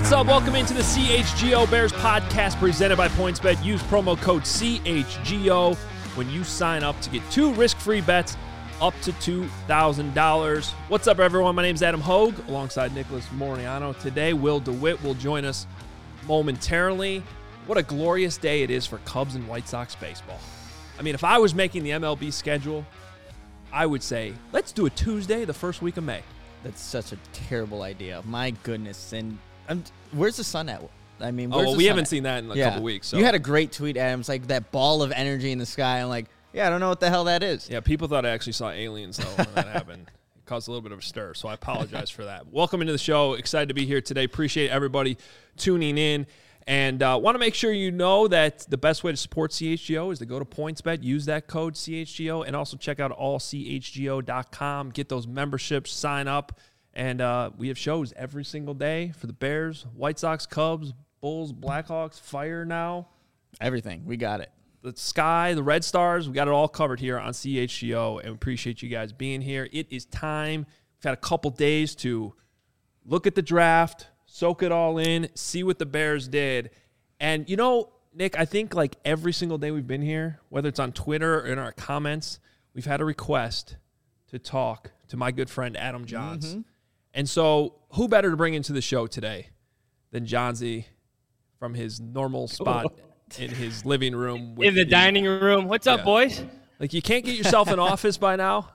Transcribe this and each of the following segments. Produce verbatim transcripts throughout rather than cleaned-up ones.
What's up? Welcome into the C H G O Bears podcast presented by PointsBet. Use promo code C H G O when you sign up to get two risk-free bets up to two thousand dollars. What's up, everyone? My name is Adam Hogue alongside Nicholas Moriano. Today, Will DeWitt will join us momentarily. What a glorious day it is for Cubs and White Sox baseball. I mean, if I was making the M L B schedule, I would say, let's do a Tuesday the first week of May. That's such a terrible idea. My goodness. And I'm, where's the sun at? I mean, oh, where's well, the we sun haven't at? seen that in a yeah. couple weeks. So. You had a great tweet, Adam. It's like that ball of energy in the sky. I'm like, yeah, I don't know what the hell that is. Yeah, people thought I actually saw aliens, though, when that happened. It caused a little bit of a stir, so I apologize for that. Welcome into the show. Excited to be here today. Appreciate everybody tuning in. And uh, want to make sure you know that the best way to support C H G O is to go to PointsBet, use that code C H G O, and also check out all C H G O dot com. Get those memberships, sign up. And uh, we have shows every single day for the Bears, White Sox, Cubs, Bulls, Blackhawks, Fire now. Everything. We got it. The Sky, the Red Stars, we got it all covered here on C H G O, and we appreciate you guys being here. It is time. We've had a couple days to look at the draft, soak it all in, see what the Bears did. And, you know, Nick, I think like every single day we've been here, whether it's on Twitter or in our comments, we've had a request to talk to my good friend Adam Johns. Mm-hmm. And so who better to bring into the show today than Johnsy from his normal spot in his living room. With in the, the dining room. What's up, yeah. boys? Like, you can't get yourself an office by now?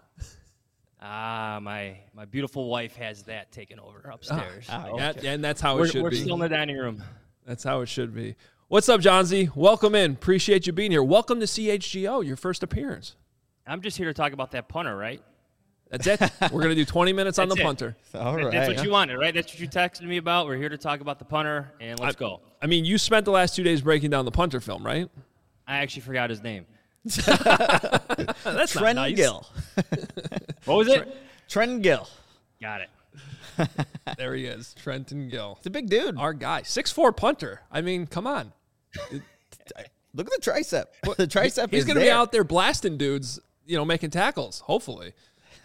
Ah, my my beautiful wife has that taken over upstairs. Ah, so. yeah, and that's how we're, it should we're be. We're still in the dining room. That's how it should be. What's up, Johnsy? Welcome in. Appreciate you being here. Welcome to C H G O, your first appearance. I'm just here to talk about that punter, right? That's it. We're going to do twenty minutes on the it. punter. All right. That's what you wanted, right? That's what you texted me about. We're here to talk about the punter, and let's I, go. I mean, you spent the last two days breaking down the punter film, right? I actually forgot his name. That's Trent nice. Gill. What was it? Trent Gill. Got it. There he is, Trenton Gill. It's a big dude. Our guy. six foot four punter. I mean, come on. Look at the tricep. The tricep He's is going to there. be out there blasting dudes, you know, making tackles, hopefully.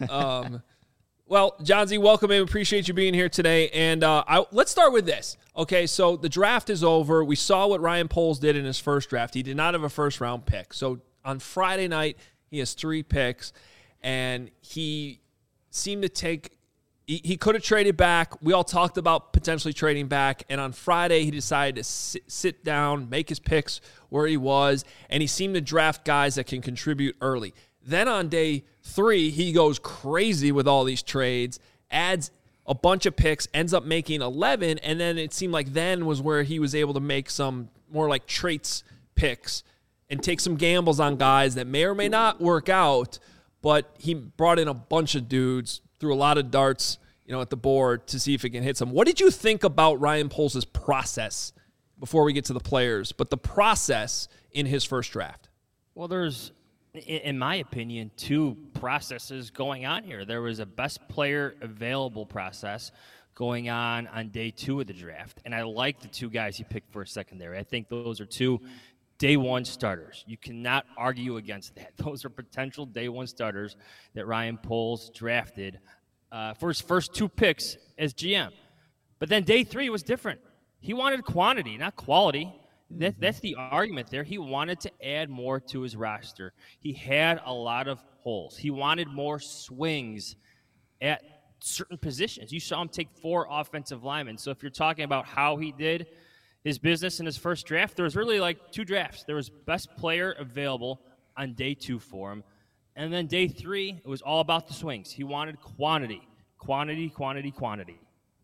Um, well, Johnsy, welcome in. Appreciate you being here today. And uh, I, let's start with this. Okay, so the draft is over. We saw what Ryan Poles did in his first draft. He did not have a first-round pick. So on Friday night, he has three picks, and he seemed to take he, – he could have traded back. We all talked about potentially trading back, and on Friday he decided to sit, sit down, make his picks where he was, and he seemed to draft guys that can contribute early. Then on day three, he goes crazy with all these trades, adds a bunch of picks, ends up making eleven, and then it seemed like then was where he was able to make some more like traits picks and take some gambles on guys that may or may not work out, but he brought in a bunch of dudes, threw a lot of darts, you know, at the board to see if it can hit some. What did you think about Ryan Poles' process before we get to the players, but the process in his first draft? Well, there's, in my opinion, two processes going on here. There was a best player available process going on on day two of the draft, and I like the two guys he picked for a secondary. I think those are two day one starters. You cannot argue against that. Those are potential day one starters that Ryan Poles drafted uh, for his first two picks as G M. But then day three was different. He wanted quantity, not quality. That, that's the argument there. He wanted to add more to his roster. He had a lot of holes. He wanted more swings at certain positions. You saw him take four offensive linemen. So if you're talking about how he did his business in his first draft, there was really like two drafts. There was best player available on day two for him. And then day three, it was all about the swings. He wanted quantity, quantity, quantity, quantity.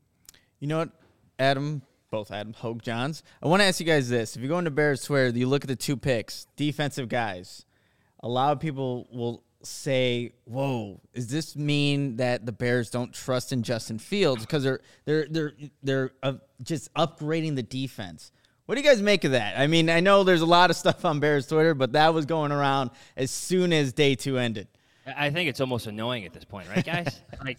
You know what, Adam? Both Adam Hogue Johns. I want to ask you guys this. If you go into Bears Twitter, you look at the two picks, defensive guys. A lot of people will say, whoa, does this mean that the Bears don't trust in Justin Fields because they're they're they're they're uh, just upgrading the defense? What do you guys make of that? I mean, I know there's a lot of stuff on Bears Twitter, but that was going around as soon as day two ended. I think it's almost annoying at this point, right, guys? Like,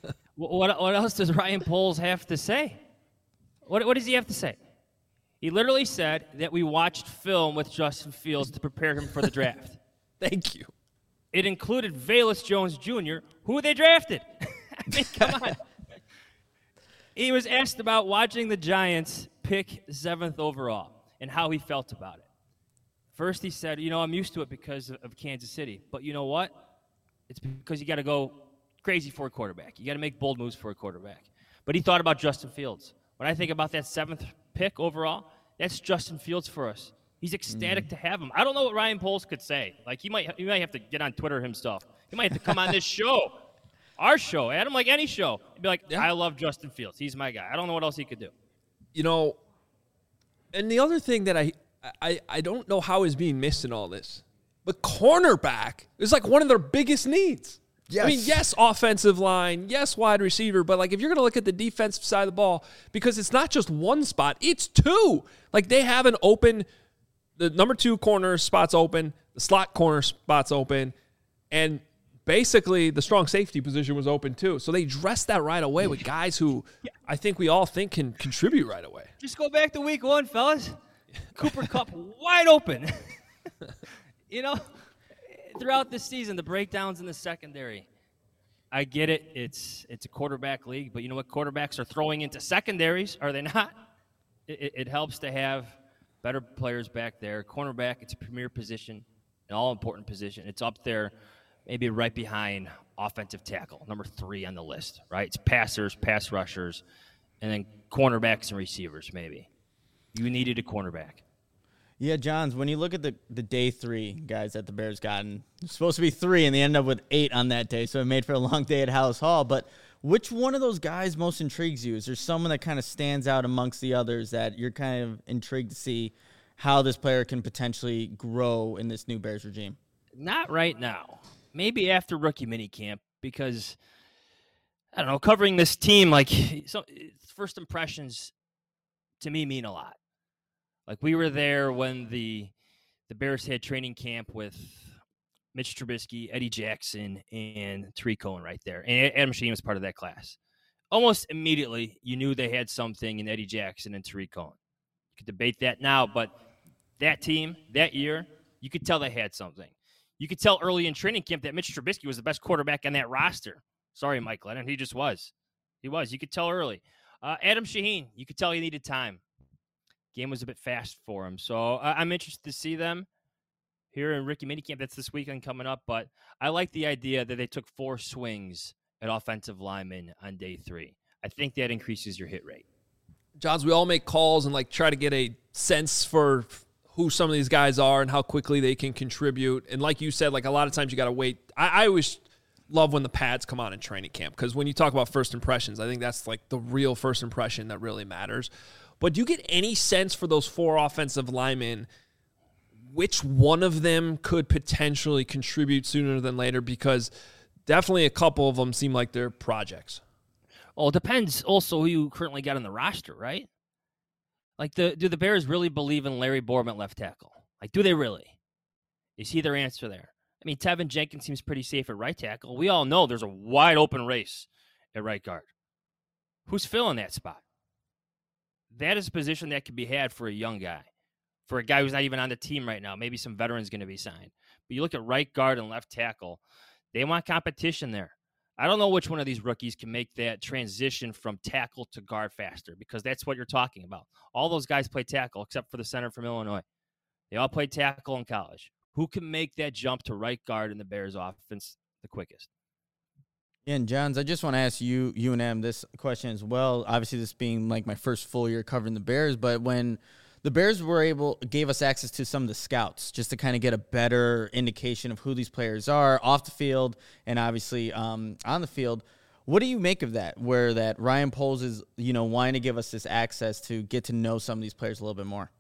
what what else does Ryan Poles have to say? What what does he have to say? He literally said that we watched film with Justin Fields to prepare him for the draft. Thank you. It included Velus Jones Junior, who they drafted. I mean, come on. He was asked about watching the Giants pick seventh overall and how he felt about it. First, he said, you know, I'm used to it because of Kansas City. But you know what? It's because you got to go crazy for a quarterback. You got to make bold moves for a quarterback. But he thought about Justin Fields. When I think about that seventh pick overall, that's Justin Fields for us. He's ecstatic mm. to have him. I don't know what Ryan Poles could say. Like, he might, he might have to get on Twitter himself. He might have to come on this show, our show, Adam, like any show, and be like, yeah. I love Justin Fields. He's my guy. I don't know what else he could do. You know, and the other thing that I, I, I don't know how is being missed in all this, but cornerback is like one of their biggest needs. Yes. I mean, yes, offensive line, yes, wide receiver, but like if you're going to look at the defensive side of the ball, because it's not just one spot, it's two. Like they have an open, the number two corner spot's open, the slot corner spot's open, and basically the strong safety position was open too. So they dressed that right away with guys who I think we all think can contribute right away. Just go back to week one, fellas. Cooper Kupp wide open. You know? Throughout this season, the breakdowns in the secondary. I get it. It's it's a quarterback league, but you know what? Quarterbacks are throwing into secondaries, are they not? It, it, it helps to have better players back there. Cornerback, it's a premier position, an all-important position. It's up there maybe right behind offensive tackle, number three on the list, right? It's passers, pass rushers, and then cornerbacks and receivers maybe. You needed a cornerback. Yeah, Johns, when you look at the, the day three guys that the Bears gotten, it's supposed to be three, and they end up with eight on that day, so it made for a long day at House Hall. But which one of those guys most intrigues you? Is there someone that kind of stands out amongst the others that you're kind of intrigued to see how this player can potentially grow in this new Bears regime? Not right now. Maybe after rookie minicamp, because, I don't know, covering this team, like, so, first impressions to me mean a lot. Like, we were there when the the Bears had training camp with Mitch Trubisky, Eddie Jackson, and Tariq Cohen right there. And Adam Shaheen was part of that class. Almost immediately, you knew they had something in Eddie Jackson and Tariq Cohen. You could debate that now, but that team, that year, you could tell they had something. You could tell early in training camp that Mitch Trubisky was the best quarterback on that roster. Sorry, Mike Lennon. He just was. He was. You could tell early. Uh, Adam Shaheen, you could tell he needed time. Game was a bit fast for him. So uh, I'm interested to see them here in rookie minicamp. That's this weekend coming up. But I like the idea that they took four swings at offensive linemen on day three. I think that increases your hit rate. Johns, we all make calls and like try to get a sense for who some of these guys are and how quickly they can contribute. And like you said, like a lot of times you got to wait. I, I always love when the pads come on in training camp, because when you talk about first impressions, I think that's like the real first impression that really matters. But do you get any sense for those four offensive linemen, which one of them could potentially contribute sooner than later? Because definitely a couple of them seem like they're projects. Well, it depends also who you currently got on the roster, right? Like, the do the Bears really believe in Larry Borom at left tackle? Like, do they really? Is he their answer there? I mean, Tevin Jenkins seems pretty safe at right tackle. We all know there's a wide open race at right guard. Who's filling that spot? That is a position that can be had for a young guy, for a guy who's not even on the team right now. Maybe some veterans going to be signed. But you look at right guard and left tackle, they want competition there. I don't know which one of these rookies can make that transition from tackle to guard faster, because that's what you're talking about. All those guys play tackle except for the center from Illinois. They all played tackle in college. Who can make that jump to right guard in the Bears offense the quickest? And Johns, I just want to ask you, you and Em, this question as well. Obviously, this being like my first full year covering the Bears, but when the Bears were able, gave us access to some of the scouts just to kind of get a better indication of who these players are off the field and obviously um, on the field. What do you make of that? Where that Ryan Poles is, you know, wanting to give us this access to get to know some of these players a little bit more.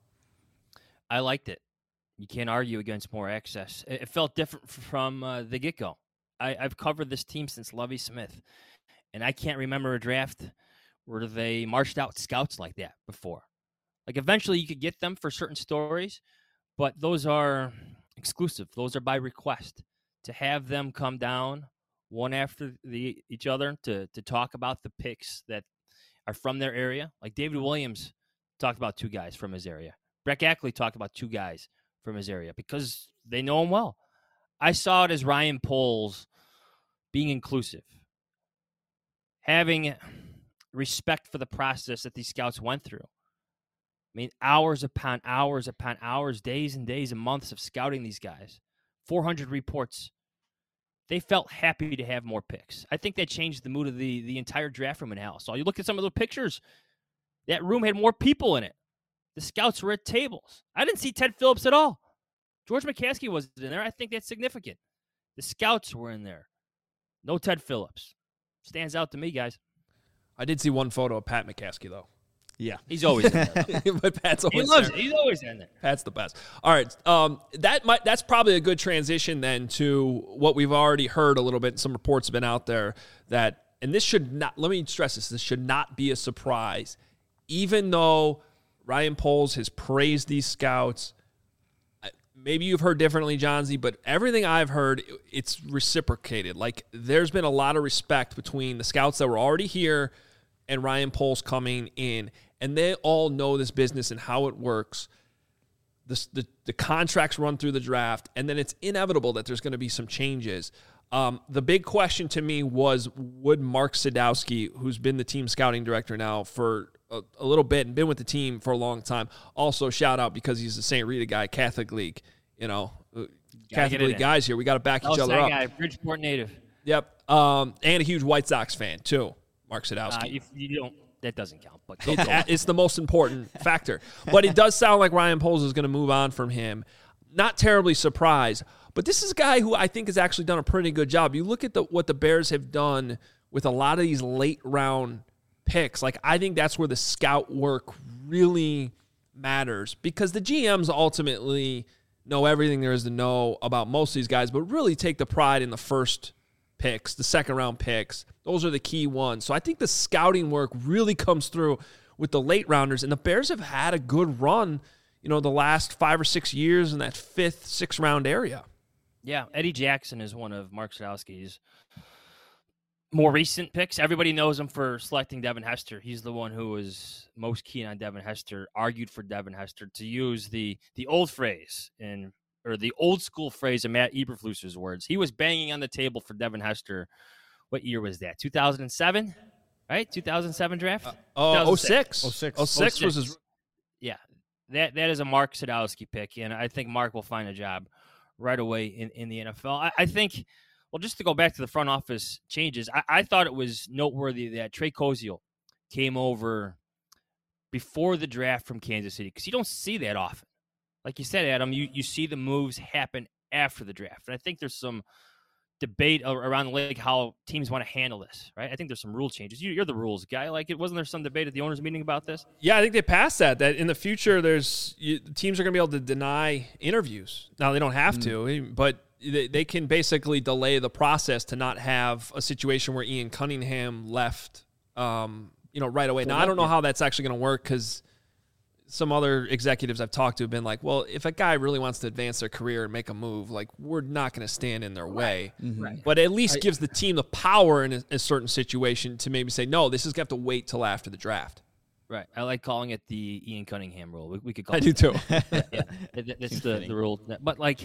I liked it. You can't argue against more access. It felt different from uh, the get-go. I, I've covered this team since Lovie Smith, and I can't remember a draft where they marched out scouts like that before. Like, eventually you could get them for certain stories, but those are exclusive. Those are by request. To have them come down one after the each other to to talk about the picks that are from their area. Like David Williams talked about two guys from his area. Brett Ackley talked about two guys from his area because they know him well. I saw it as Ryan Poles being inclusive. Having respect for the process that these scouts went through. I mean, hours upon hours upon hours, days and days and months of scouting these guys. four hundred reports. They felt happy to have more picks. I think that changed the mood of the, the entire draft room in Dallas. So you look at some of those pictures, that room had more people in it. The scouts were at tables. I didn't see Ted Phillips at all. George McCaskey wasn't in there. I think that's significant. The scouts were in there. No Ted Phillips. Stands out to me, guys. I did see one photo of Pat McCaskey, though. Yeah. He's always in there. But Pat's always he loves there. it. He's always in there. Pat's the best. All right. Um, that might that's probably a good transition then to what we've already heard a little bit. Some reports have been out there that, and this should not, let me stress this, this should not be a surprise. Even though Ryan Poles has praised these scouts, maybe you've heard differently, John Z, but everything I've heard, it's reciprocated. Like, there's been a lot of respect between the scouts that were already here and Ryan Poles coming in. And they all know this business and how it works. The, the, the contracts run through the draft, and then it's inevitable that there's going to be some changes. Um, the big question to me was, would Mark Sadowski, who's been the team scouting director now for a, a little bit and been with the team for a long time, also shout out because he's a Saint Rita guy, Catholic League, you know, Catholic League guys here. We got to back each other up. Guy, Bridgeport native. Yep. Um, and a huge White Sox fan, too, Mark Sadowski. Uh, if you don't. That doesn't count. But it, it's the most important factor. But it does sound like Ryan Poles is going to move on from him. Not terribly surprised. But this is a guy who I think has actually done a pretty good job. You look at the, what the Bears have done with a lot of these late round picks. Like, I think that's where the scout work really matters because the G Ms ultimately know everything there is to know about most of these guys, but really take the pride in the first picks, the second round picks. Those are the key ones. So I think the scouting work really comes through with the late rounders, and the Bears have had a good run, you know, the last five or six years in that fifth, sixth round area. Yeah, Eddie Jackson is one of Mark Sadowski's more recent picks. Everybody knows him for selecting Devin Hester. He's the one who was most keen on Devin Hester, argued for Devin Hester, to use the the old phrase in or the old school phrase of Matt Eberflusser's words. He was banging on the table for Devin Hester. What year was that? two thousand seven, right? two thousand seven draft? Uh, oh, oh six. oh six. oh six was his. Yeah, that that is a Mark Sadowski pick, and I think Mark will find a job right away in, in the N F L. I, I think, well, just to go back to the front office changes, I, I thought it was noteworthy that Trey Koziel came over before the draft from Kansas City because you don't see that often. Like you said, Adam, you, you see the moves happen after the draft. And I think there's some debate around the league how teams want to handle this, right? I think there's some rule changes. You, you're the rules guy. Like, it wasn't there some debate at the owners' meeting about this? Yeah, I think they passed that, that in the future there's you, teams are going to be able to deny interviews. Now, they don't have mm-hmm. to, but they, they can basically delay the process to not have a situation where Ian Cunningham left, um, you know, right away. Now, I don't know how that's actually going to work because some other executives I've talked to have been like, well, if a guy really wants to advance their career and make a move, like, we're not going to stand in their way. Mm-hmm. Right. But at least I, gives the team the power in a, a certain situation to maybe say, no, this is going to have to wait till after the draft. Right. I like calling it the Ian Cunningham rule. We, we could call I it do too. yeah, yeah. That, that's the, the rule. But, like,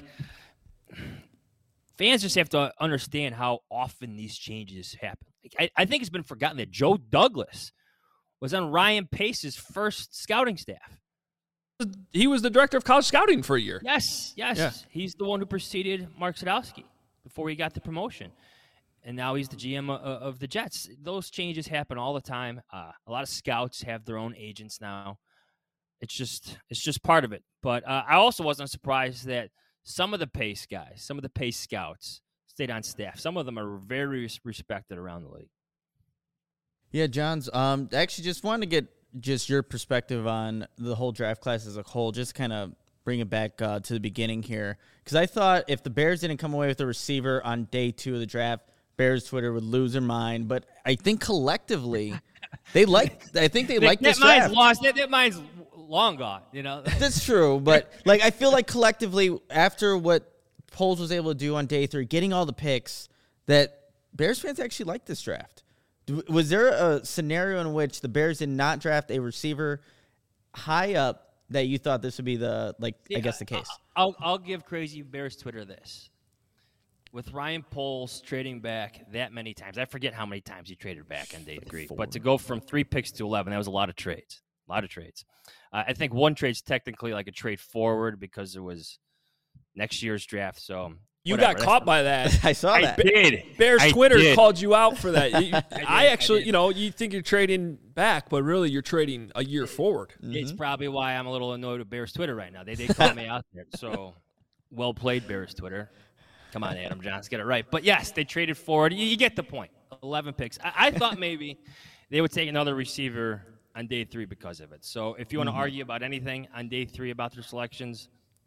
fans just have to understand how often these changes happen. Like, I, I think it's been forgotten that Joe Douglas was on Ryan Pace's first scouting staff. He was the director of college scouting for a year. Yes, yes. Yeah. He's the one who preceded Mark Sadowski before he got the promotion. And now he's the G M of, of the Jets. Those changes happen all the time. Uh, a lot of scouts have their own agents now. It's just it's just part of it. But uh, I also wasn't surprised that some of the Pace guys, some of the Pace scouts stayed on staff. Some of them are very respected around the league. Yeah, Johns, um, I actually just wanted to get just your perspective on the whole draft class as a whole, just kind of bring it back uh, to the beginning here. Because I thought if the Bears didn't come away with a receiver on day two of the draft, Bears Twitter would lose their mind. But I think collectively, they like. I think they like this that mind's draft. Lost. That, that mind's long gone, you know? That's true. But, like, I feel like collectively, after what Poles was able to do on day three, getting all the picks, that Bears fans actually like this draft. Was there a scenario in which the Bears did not draft a receiver high up that you thought this would be the, like, yeah, I guess the case? I'll I'll give Crazy Bears Twitter this. with Ryan Poles trading back that many times, I forget how many times he traded back on day three, but to go from three picks to eleven, that was a lot of trades. A lot of trades. Uh, I think one trade's technically like a trade forward because it was next year's draft. So you whatever. got caught by that. I saw I that. did. Bears I Twitter did. called you out for that. You, I, I actually, did. you know, you think you're trading back, but really you're trading a year forward. It's probably why I'm a little annoyed with Bears Twitter right now. They they called me out there. So well played, Bears Twitter. Come on, Adam Johns, get it right. But yes, they traded forward. You, you get the point. eleven picks. I, I thought maybe they would take another receiver on day three because of it. So if you want to Mm-hmm. argue about anything on day three about their selections,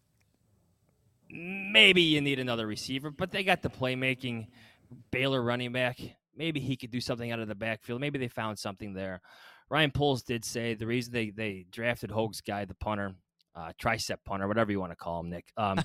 maybe you need another receiver. But they got the playmaking Baylor running back. Maybe he could do something out of the backfield. Maybe they found something there. Ryan Poles did say the reason they, they drafted Hogue's guy, the punter, uh, tricep punter, whatever you want to call him, Nick, um,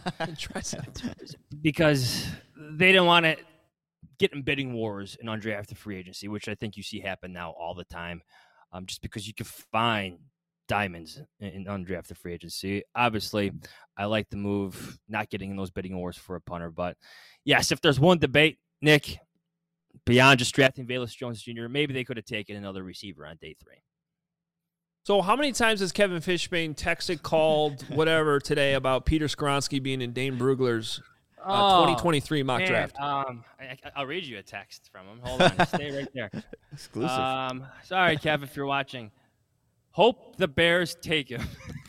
because they didn't want to get in bidding wars in undrafted free agency, which I think you see happen now all the time, um, just because you can find diamonds in, in undrafted free agency. Obviously, I like the move, not getting in those bidding wars for a punter. But, yes, if there's one debate, Nick, beyond just drafting Velus Jones Junior, maybe they could have taken another receiver on day three. So how many times has Kevin Fishbane texted, called, whatever today about Peter Skoronsky being in Dane Brugler's uh, Oh, twenty twenty-three mock Man, draft? Um, I, I'll read you a text from him. Hold on. Stay right there. Exclusive. Um, sorry, Kev, if you're watching. Hope the Bears take him.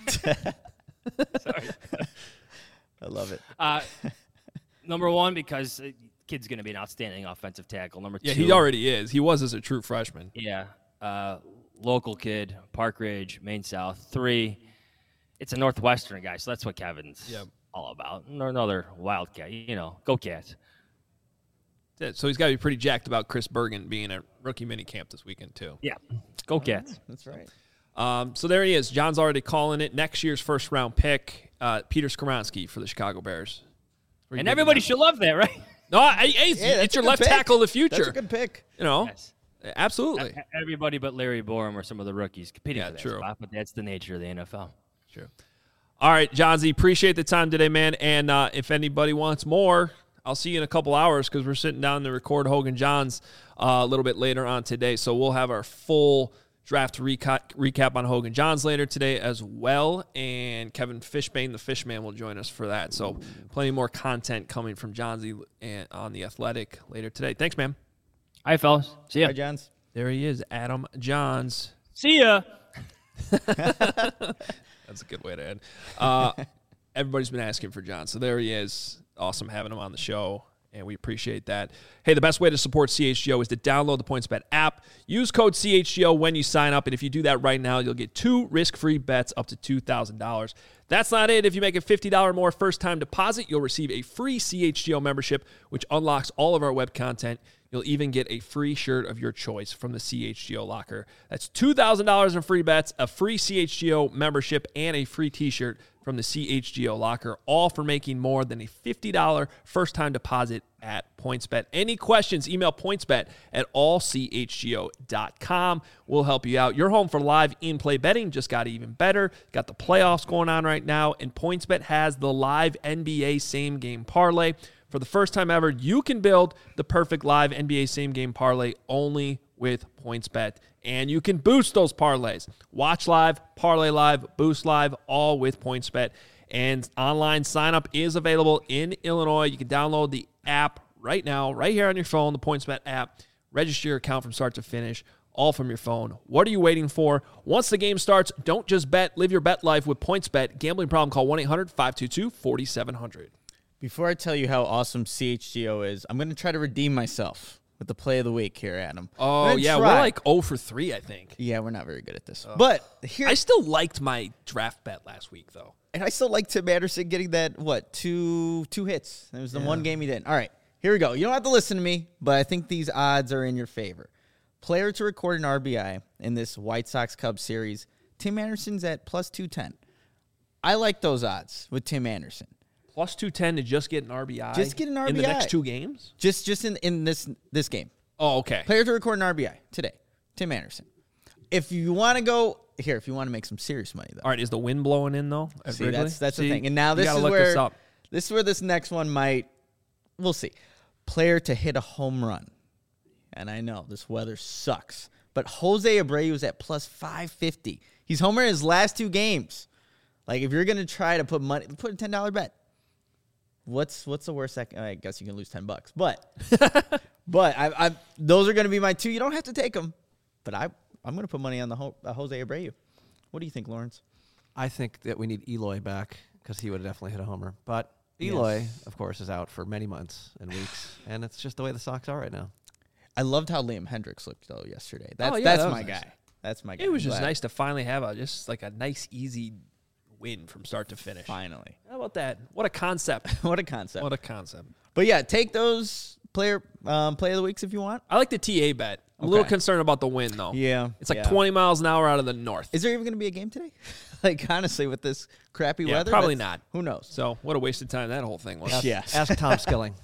Sorry. I love it. Uh, number one, because uh, kid's going to be an outstanding offensive tackle. Number Yeah, two. he already is. He was as a true freshman. Yeah. Uh, local kid, Park Ridge, Maine South. Three, it's a Northwestern guy, so that's what Kevin's Yep. all about. Another Wildcat, you know, go Cats. So he's got to be pretty jacked about Chris Bergen being at rookie minicamp this weekend, too. Yeah, go Cats. That's right. Um, so there he is. John's already calling it. Next year's first-round pick, uh, Peter Skoronsky for the Chicago Bears. Where you And thinking everybody about? should love that, right? No, I, hey, Yeah, that's it's a your good left pick. tackle of the future. That's a good pick. You know, Yes. absolutely. Everybody but Larry Borum or some of the rookies competing Yeah, for that true. spot, but that's the nature of the N F L. True. All right, Johnsy, appreciate the time today, man. And uh, if anybody wants more, I'll see you in a couple hours because we're sitting down to record Hogan Johns uh, a little bit later on today. So we'll have our full draft recap, recap on Hogan Johns later today as well. And Kevin Fishbane, the Fishman, will join us for that. So plenty more content coming from Johnsy and on The Athletic later today. Thanks, man. All right, fellas. See ya. Hi, Johns. There he is, Adam Johns. See ya. That's a good way to end. Uh, everybody's been asking for John, so there he is. Awesome having him on the show, and we appreciate that. Hey, the best way to support C H G O is to download the PointsBet app. Use code C H G O when you sign up, and if you do that right now, you'll get two risk-free bets up to two thousand dollars. That's not it. If you make a fifty dollars more first-time deposit, you'll receive a free C H G O membership, which unlocks all of our web content. You'll even get a free shirt of your choice from the C H G O locker. That's two thousand dollars in free bets, a free C H G O membership, and a free t-shirt from the C H G O locker, all for making more than a fifty dollars first-time deposit at PointsBet. Any questions, email PointsBet at all c h g o dot com. We'll help you out. Your home for live in-play betting just got even better. Got the playoffs going on right now, and PointsBet has the live N B A same-game parlay. For the first time ever, you can build the perfect live N B A same-game parlay only with PointsBet. And you can boost those parlays. Watch live, parlay live, boost live, all with PointsBet. And online sign-up is available in Illinois. You can download the app right now, right here on your phone, the PointsBet app. Register your account from start to finish, all from your phone. What are you waiting for? Once the game starts, don't just bet. Live your bet life with PointsBet. Gambling problem, call one eight hundred five two two four seven zero zero. Before I tell you how awesome C H G O is, I'm going to try to redeem myself with the play of the week here, Adam. Oh, I'm gonna yeah, try. we're like oh for three, I think. Yeah, we're not very good at this. But here, I still liked my draft bet last week, though. and I still like Tim Anderson getting that, what, two two hits. It was the one game he didn't. All right, here we go. You don't have to listen to me, but I think these odds are in your favor. Player to record an R B I in this White Sox Cubs series, Tim Anderson's at plus two ten. I like those odds with Tim Anderson. Plus two ten to just get an R B I? Just get an R B I. In the next two games? Just just in, in this this game. Oh, okay. Player to record an R B I today, Tim Anderson. If you want to go here, if you want to make some serious money, though. All right, is the wind blowing in, though? at See, Wrigley? that's that's See, the thing. And now you this gotta is look where this up. this is where this next one might. We'll see. player to hit a home run. And I know this weather sucks, but Jose Abreu is at plus five fifty. He's homered in his last two games. Like, if you're going to try to put money, put a ten dollar bet. What's what's the worst? Second? I guess you can lose ten bucks, but but I, I those are going to be my two. You don't have to take them, but I I'm going to put money on the Ho, uh, Jose Abreu. What do you think, Lawrence? I think that we need Eloy back because he would have definitely hit a homer. But Eloy, yes. of course, is out for many months and weeks, and it's just the way the Sox are right now. I loved how Liam Hendricks looked though yesterday. That's oh, yeah, that's that my nice. guy. That's my guy. It was just Glad. nice to finally have a just like a nice, easy win from start to finish. Finally. How about that? What a concept. What a concept. What a concept. But yeah, take those player um, play of the weeks if you want. I like the T A bet. I'm okay. a little concerned about the wind though. Yeah. It's like yeah. twenty miles an hour out of the north. Is there even going to be a game today? Like, honestly, with this crappy yeah, weather? Probably not. Who knows? So what a waste of time that whole thing was. Ask, yeah. ask Tom Skilling.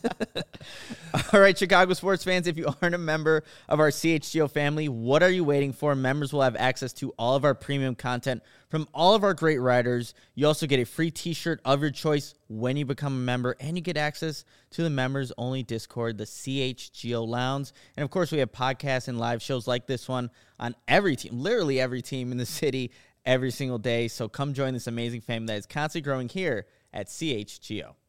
All right, Chicago sports fans, if you aren't a member of our C H G O family, what are you waiting for? Members will have access to all of our premium content from all of our great writers. You also get a free t-shirt of your choice when you become a member, and you get access to the members-only Discord, the C H G O Lounge. And, of course, we have podcasts and live shows like this one on every team, literally every team in the city, every single day. So come join this amazing family that is constantly growing here at C H G O.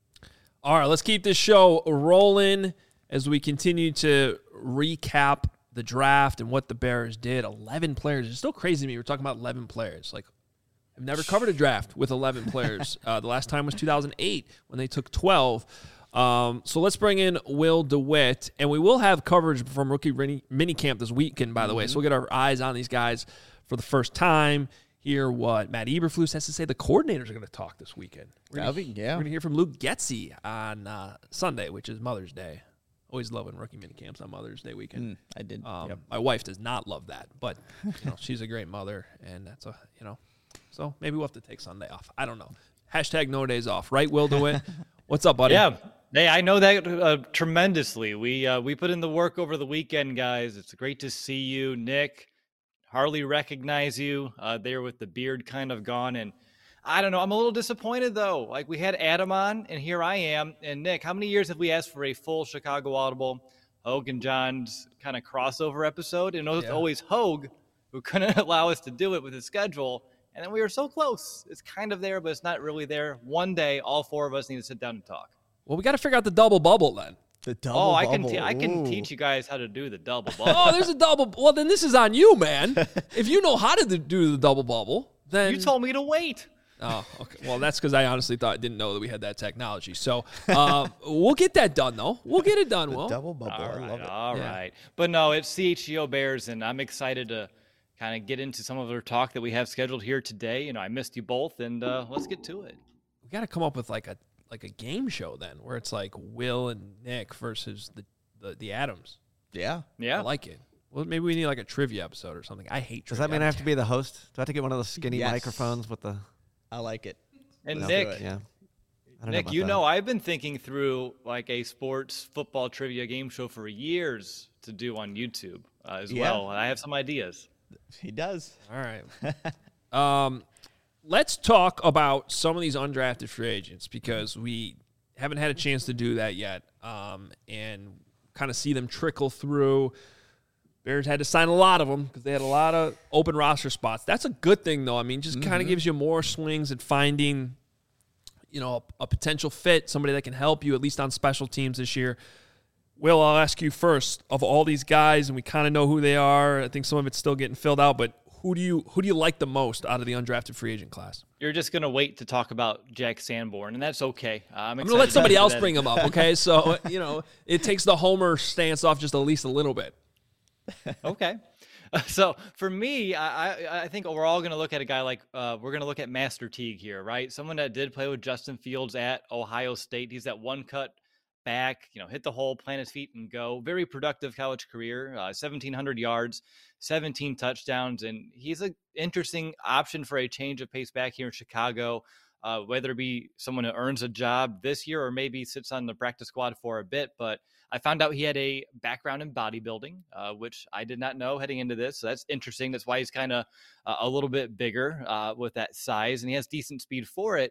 All right, let's keep this show rolling as we continue to recap the draft and what the Bears did. eleven players. It's still crazy to me. We're talking about eleven players. Like, I've never covered a draft with eleven players. Uh, the last time was two thousand eight when they took twelve. Um, so let's bring in Will DeWitt, and we will have coverage from rookie mini, mini camp this weekend, by the mm-hmm. way. So we'll get our eyes on these guys for the first time. Hear what Matt Eberflus has to say. The coordinators are going to talk this weekend. We're That'll gonna, be, yeah. We're going to hear from Luke Getsy on uh, Sunday, which is Mother's Day. Always love when rookie minicamps on Mother's Day weekend. Mm, I did. Um, yep. My wife does not love that, but you know she's a great mother, and that's a you know. So maybe we'll have to take Sunday off. I don't know. Hashtag no days off, right? Will DeWitt. What's up, buddy? Yeah. Hey, I know that uh, tremendously. We uh, we put in the work over the weekend, guys. It's great to see you, Nick. Hardly recognize you uh, there with the beard kind of gone. And I don't know. I'm a little disappointed, though. Like, we had Adam on, and here I am. And, Nick, how many years have we asked for a full Chicago Audible, Hogue and John's kind of crossover episode? And it was yeah. always Hogue who couldn't allow us to do it with his schedule. And then we were so close. It's kind of there, but it's not really there. One day, all four of us need to sit down and talk. Well, we got to figure out the double bubble then. The double oh, I bubble. can te- I can Ooh. teach you guys how to do the double bubble. Oh, there's a double. Well, then this is on you, man. If you know how to do the double bubble, then You told me to wait. Oh, okay. Well, that's because I honestly thought didn't know that we had that technology. So uh, we'll get that done, though. We'll get it done. The Will double bubble. All I right, love it. all Yeah. right. But no, it's C H G O Bears, and I'm excited to kind of get into some of our talk that we have scheduled here today. You know, I missed you both, and uh, let's get to it. We got to come up with like a like a game show then, where it's like Will and Nick versus the the, the Adams. Yeah. Yeah. I like it. Well, maybe we need like a trivia episode or something. I hate. Does trivia. that mean I have to be the host? Do I have to get one of those skinny Yes. microphones with the? I like it. And Let's Nick, do it. Yeah. I don't Nick, about you that. know, I've been thinking through like a sports football trivia game show for years to do on YouTube uh, as Yeah. well. I have some ideas. He does. All right. um, let's talk about some of these undrafted free agents because we haven't had a chance to do that yet, um, and kind of see them trickle through. Bears had to sign a lot of them because they had a lot of open roster spots. That's a good thing, though. I mean, just kind of gives you more swings at finding, you know, a, a potential fit, somebody that can help you at least on special teams this year. Will, I'll ask you first. Of all these guys, and we kind of know who they are. I think some of it's still getting filled out, but who do you who do you like the most out of the undrafted free agent class? You're just going to wait to talk about Jack Sanborn, and that's okay. Uh, I'm, I'm going to let somebody else that. bring him up, okay? So, you know, it takes the homer stance off just at least a little bit. Okay. So for me, I, I, I think we're all going to look at a guy like uh, we're going to look at Master Teague here, right? Someone that did play with Justin Fields at Ohio State. He's that one cut back, you know, hit the hole, plant his feet and go. Very productive college career, uh, seventeen hundred yards, seventeen touchdowns. And he's an interesting option for a change of pace back here in Chicago, uh, whether it be someone who earns a job this year or maybe sits on the practice squad for a bit. But I found out he had a background in bodybuilding, uh, which I did not know heading into this. So that's interesting. That's why he's kind of uh, a little bit bigger uh, with that size, and he has decent speed for it.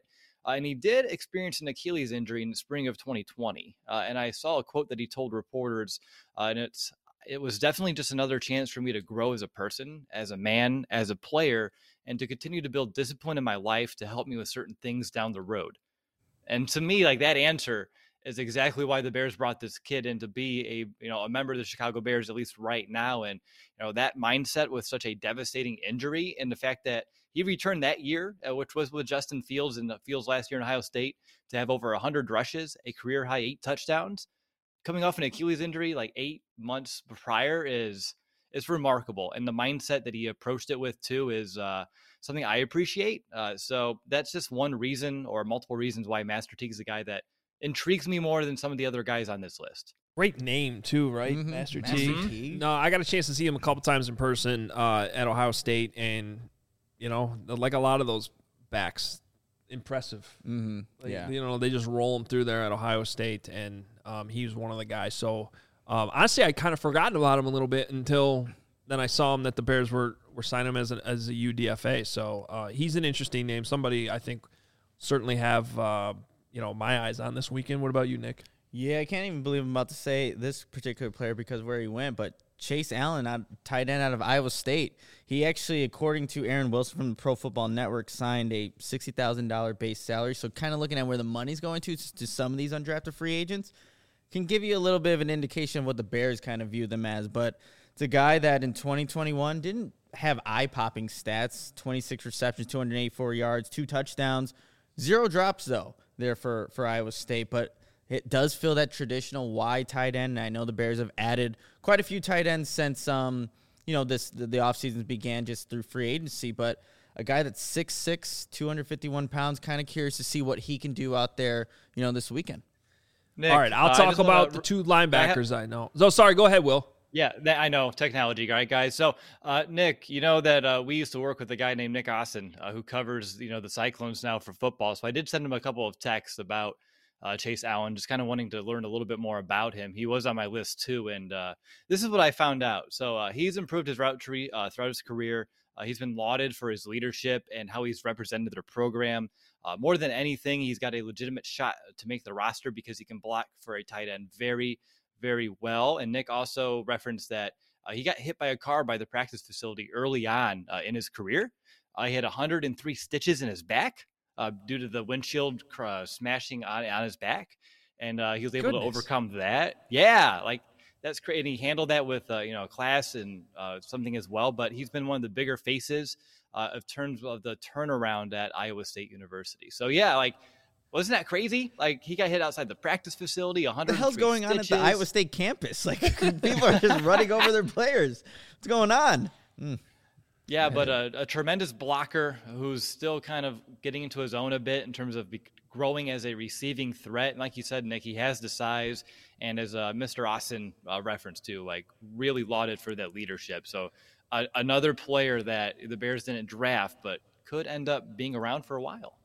Uh, and he did experience an Achilles injury in the spring of twenty twenty. Uh, and I saw a quote that he told reporters, uh, and it's, it was definitely just another chance for me to grow as a person, as a man, as a player, and to continue to build discipline in my life to help me with certain things down the road. And to me, like, that answer is exactly why the Bears brought this kid in to be a, you know, a member of the Chicago Bears, at least right now. And, you know, that mindset with such a devastating injury and the fact that he returned that year, uh, which was with Justin Fields and Fields last year in Ohio State, to have over one hundred rushes, a career high eight touchdowns, coming off an Achilles injury like eight months prior is is remarkable. And the mindset that he approached it with too is uh, something I appreciate. Uh, so that's just one reason or multiple reasons why Master Teague is a guy that intrigues me more than some of the other guys on this list. Great name too, right? Mhm. Master, Master Teague. Teague. No, I got a chance to see him a couple times in person uh, at Ohio State, and you know, like a lot of those backs, impressive. Mm-hmm. Like, Yeah. you know, they just roll him through there at Ohio State, and um, he was one of the guys. So um, honestly, I kind of forgotten about him a little bit until then I saw him that the Bears were were signing him as an as a U D F A. So uh, he's an interesting name. Somebody I think certainly have uh, you know my eyes on this weekend. What about you, Nick? Yeah, I can't even believe I'm about to say this particular player because of where he went, but Chase Allen, out, tight end out of Iowa State, he actually, according to Aaron Wilson from the Pro Football Network, signed a sixty thousand dollars base salary. So kind of looking at where the money's going to, to some of these undrafted free agents, can give you a little bit of an indication of what the Bears kind of view them as. But it's a guy that in twenty twenty-one didn't have eye-popping stats, twenty-six receptions, two hundred eighty-four yards, two touchdowns, zero drops, though, there for, for Iowa State. But it does feel that traditional wide tight end. And I know the Bears have added quite a few tight ends since um you know this the, the offseason began just through free agency. But a guy that's six six, two hundred fifty-one pounds, kind of curious to see what he can do out there, you know, this weekend. Nick, All right, I'll uh, talk about wanna, the two linebackers I, have, I know. So sorry, go ahead, Will. Yeah, that, I know technology, right, guys? So, uh, Nick, you know that uh, we used to work with a guy named Nick Austin, uh, who covers, you know, the Cyclones now for football. So I did send him a couple of texts about uh, Chase Allen, just kind of wanting to learn a little bit more about him. He was on my list too, and uh, this is what I found out. So uh, he's improved his route tree uh, throughout his career. Uh, he's been lauded for his leadership and how he's represented their program. Uh, more than anything, he's got a legitimate shot to make the roster because he can block for a tight end very, very well. And Nick also referenced that uh, he got hit by a car by the practice facility early on uh, in his career. Uh, he had one hundred three stitches in his back uh, due to the windshield uh, smashing on, on his back. And uh, he was able Goodness. to overcome that. Yeah, like that's great. And he handled that with, uh, you know, class and uh, something as well. But he's been one of the bigger faces uh, of terms of the turnaround at Iowa State University. So, yeah, like, wasn't that crazy? Like, he got hit outside the practice facility. one hundred What the hell's going stitches. on at the Iowa State campus? Like, people are just running over their players. What's going on? Mm. Yeah, but a, a tremendous blocker who's still kind of getting into his own a bit in terms of be- growing as a receiving threat. And like you said, Nick, he has the size, and as uh, Mister Austin uh, referenced to, like, really lauded for that leadership. So uh, another player that the Bears didn't draft, but could end up being around for a while.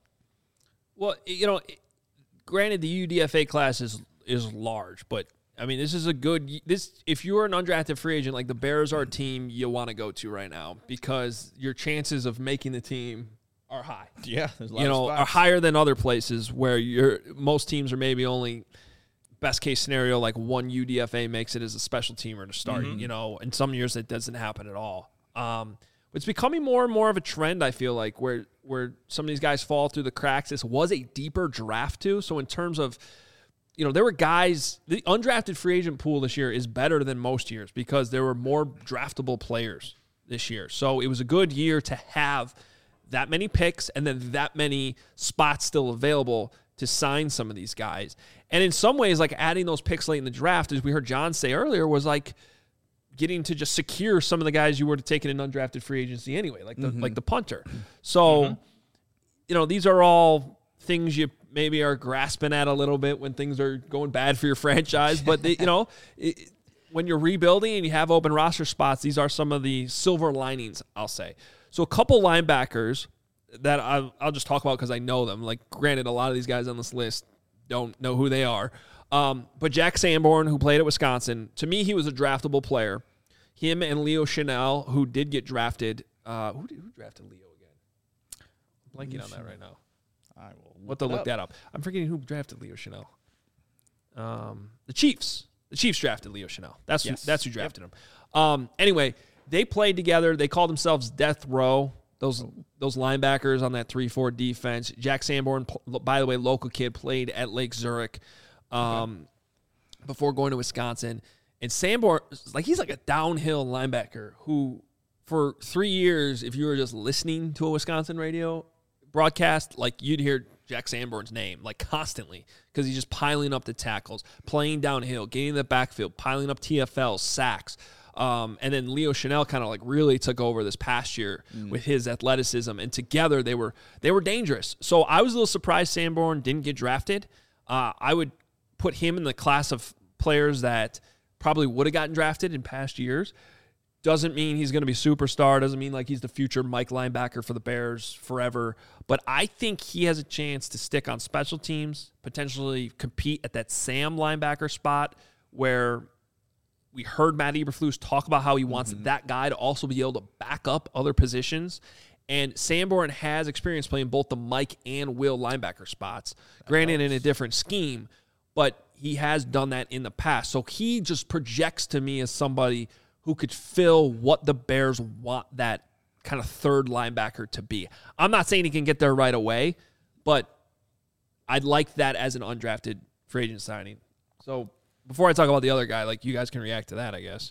Well, you know, granted, the U D F A class is is large, but I mean, this is a good this. If you're an undrafted free agent, like the Bears are a team you want to go to right now because your chances of making the team are high. Yeah, there's a lot You of know, are spots. higher than other places where you're. Most teams are maybe only best case scenario like one U D F A makes it as a special teamer to start. Mm-hmm. You know, in some years it doesn't happen at all. Um, it's becoming more and more of a trend, I feel like, where where some of these guys fall through the cracks. This was a deeper draft, too. So in terms of, you know, there were guys, the undrafted free agent pool this year is better than most years because there were more draftable players this year. So it was a good year to have that many picks and then that many spots still available to sign some of these guys. And in some ways, like adding those picks late in the draft, as we heard John say earlier, was like getting to just secure some of the guys you were to take in an undrafted free agency anyway, like the mm-hmm. like the punter. So, mm-hmm. you know, these are all things you maybe are grasping at a little bit when things are going bad for your franchise. But, they, you know, it, when you're rebuilding and you have open roster spots, these are some of the silver linings, I'll say. So a couple linebackers that I'll, I'll just talk about because I know them. Like, granted, a lot of these guys on this list don't know who they are. Um, but Jack Sanborn, who played at Wisconsin, to me, he was a draftable player. Him and Leo Chanel, who did get drafted. Uh, who, did, who drafted Leo again? I'm blanking on that right now. I will What to it look up. that up. I'm forgetting who drafted Leo Chanel. Um, the Chiefs. The Chiefs drafted Leo Chanel. That's Yes. who, that's who drafted him. Um, anyway, they played together. They called themselves Death Row. Those those linebackers on that three four defense. Jack Sanborn, by the way, local kid, played at Lake Zurich um, okay. before going to Wisconsin. And Sanborn, like he's like a downhill linebacker who, for three years, if you were just listening to a Wisconsin radio broadcast, like you'd hear Jack Sanborn's name like constantly because he's just piling up the tackles, playing downhill, getting in the backfield, piling up T F Ls, sacks. Um, and then Leo Chanel kind of like really took over this past year mm. with his athleticism, and together they were they were dangerous. So I was a little surprised Sanborn didn't get drafted. Uh, I would put him in the class of players that probably would have gotten drafted in past years. Doesn't mean he's going to be superstar. Doesn't mean like he's the future Mike linebacker for the Bears forever. But I think he has a chance to stick on special teams, potentially compete at that Sam linebacker spot where we heard Matt Eberflus talk about how he wants mm-hmm. that guy to also be able to back up other positions. And Sanborn has experience playing both the Mike and Will linebacker spots, granted in a different scheme, but he has done that in the past. So he just projects to me as somebody who could fill what the Bears want that kind of third linebacker to be. I'm not saying he can get there right away, but I'd like that as an undrafted free agent signing. So before I talk about the other guy, like you guys can react to that, I guess.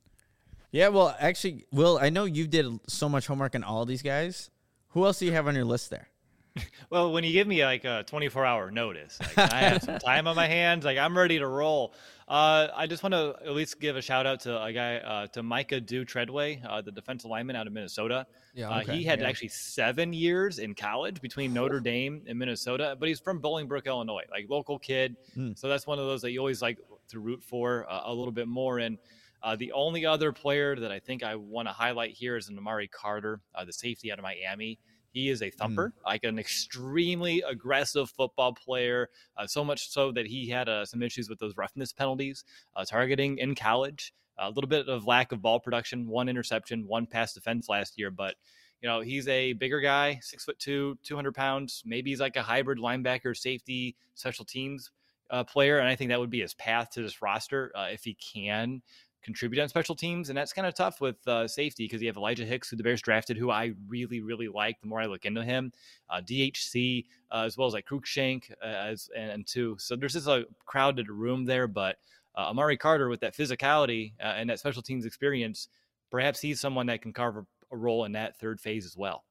Yeah, well, actually, Will, I know you did so much homework on all these guys. Who else do you have on your list there? Well, when you give me like a twenty-four hour notice, like, I have some time on my hands, like I'm ready to roll. Uh, I just want to at least give a shout out to a guy, uh, to Micah Dew Treadway, uh, the defensive lineman out of Minnesota. Yeah, okay. uh, he had yeah. actually seven years in college between Notre Dame and Minnesota, but he's from Bolingbrook, Illinois, like local kid. Mm. So that's one of those that you always like to root for uh, a little bit more. And uh, the only other player that I think I want to highlight here is Amari Carter, uh, the safety out of Miami. He is a thumper, mm. like an extremely aggressive football player, uh, so much so that he had uh, some issues with those roughness penalties, uh, targeting in college, a little bit of lack of ball production, one interception, one pass defense last year. But, you know, he's a bigger guy, six foot two, two hundred pounds. Maybe he's like a hybrid linebacker, safety, special teams uh, player. And I think that would be his path to this roster uh, if he can contribute on special teams. And that's kind of tough with uh, safety because you have Elijah Hicks, who the Bears drafted, who I really, really like the more I look into him, uh, D H C, uh, as well as like Cruikshank uh, as, and, and two. So there's just a crowded room there, but uh, Amari Carter with that physicality uh, and that special teams experience, perhaps he's someone that can carve a, a role in that third phase as well.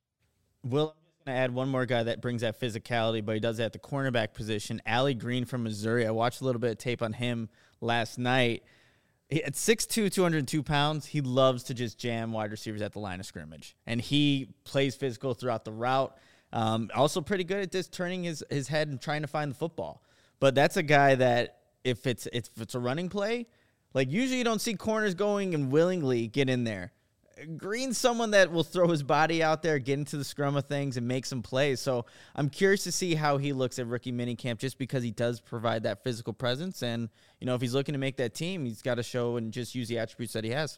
Well, I'm just going to add one more guy that brings that physicality, but he does that at the cornerback position. Allie Green from Missouri. I watched a little bit of tape on him last night. At six two, two hundred two pounds, he loves to just jam wide receivers at the line of scrimmage. And he plays physical throughout the route. Um, also pretty good at just turning his, his head and trying to find the football. But that's a guy that if it's if it's a running play, like usually you don't see corners going and willingly get in there. Green's someone that will throw his body out there, get into the scrum of things, and make some plays. So I'm curious to see how he looks at rookie minicamp just because he does provide that physical presence. And, you know, if he's looking to make that team, he's got to show and just use the attributes that he has.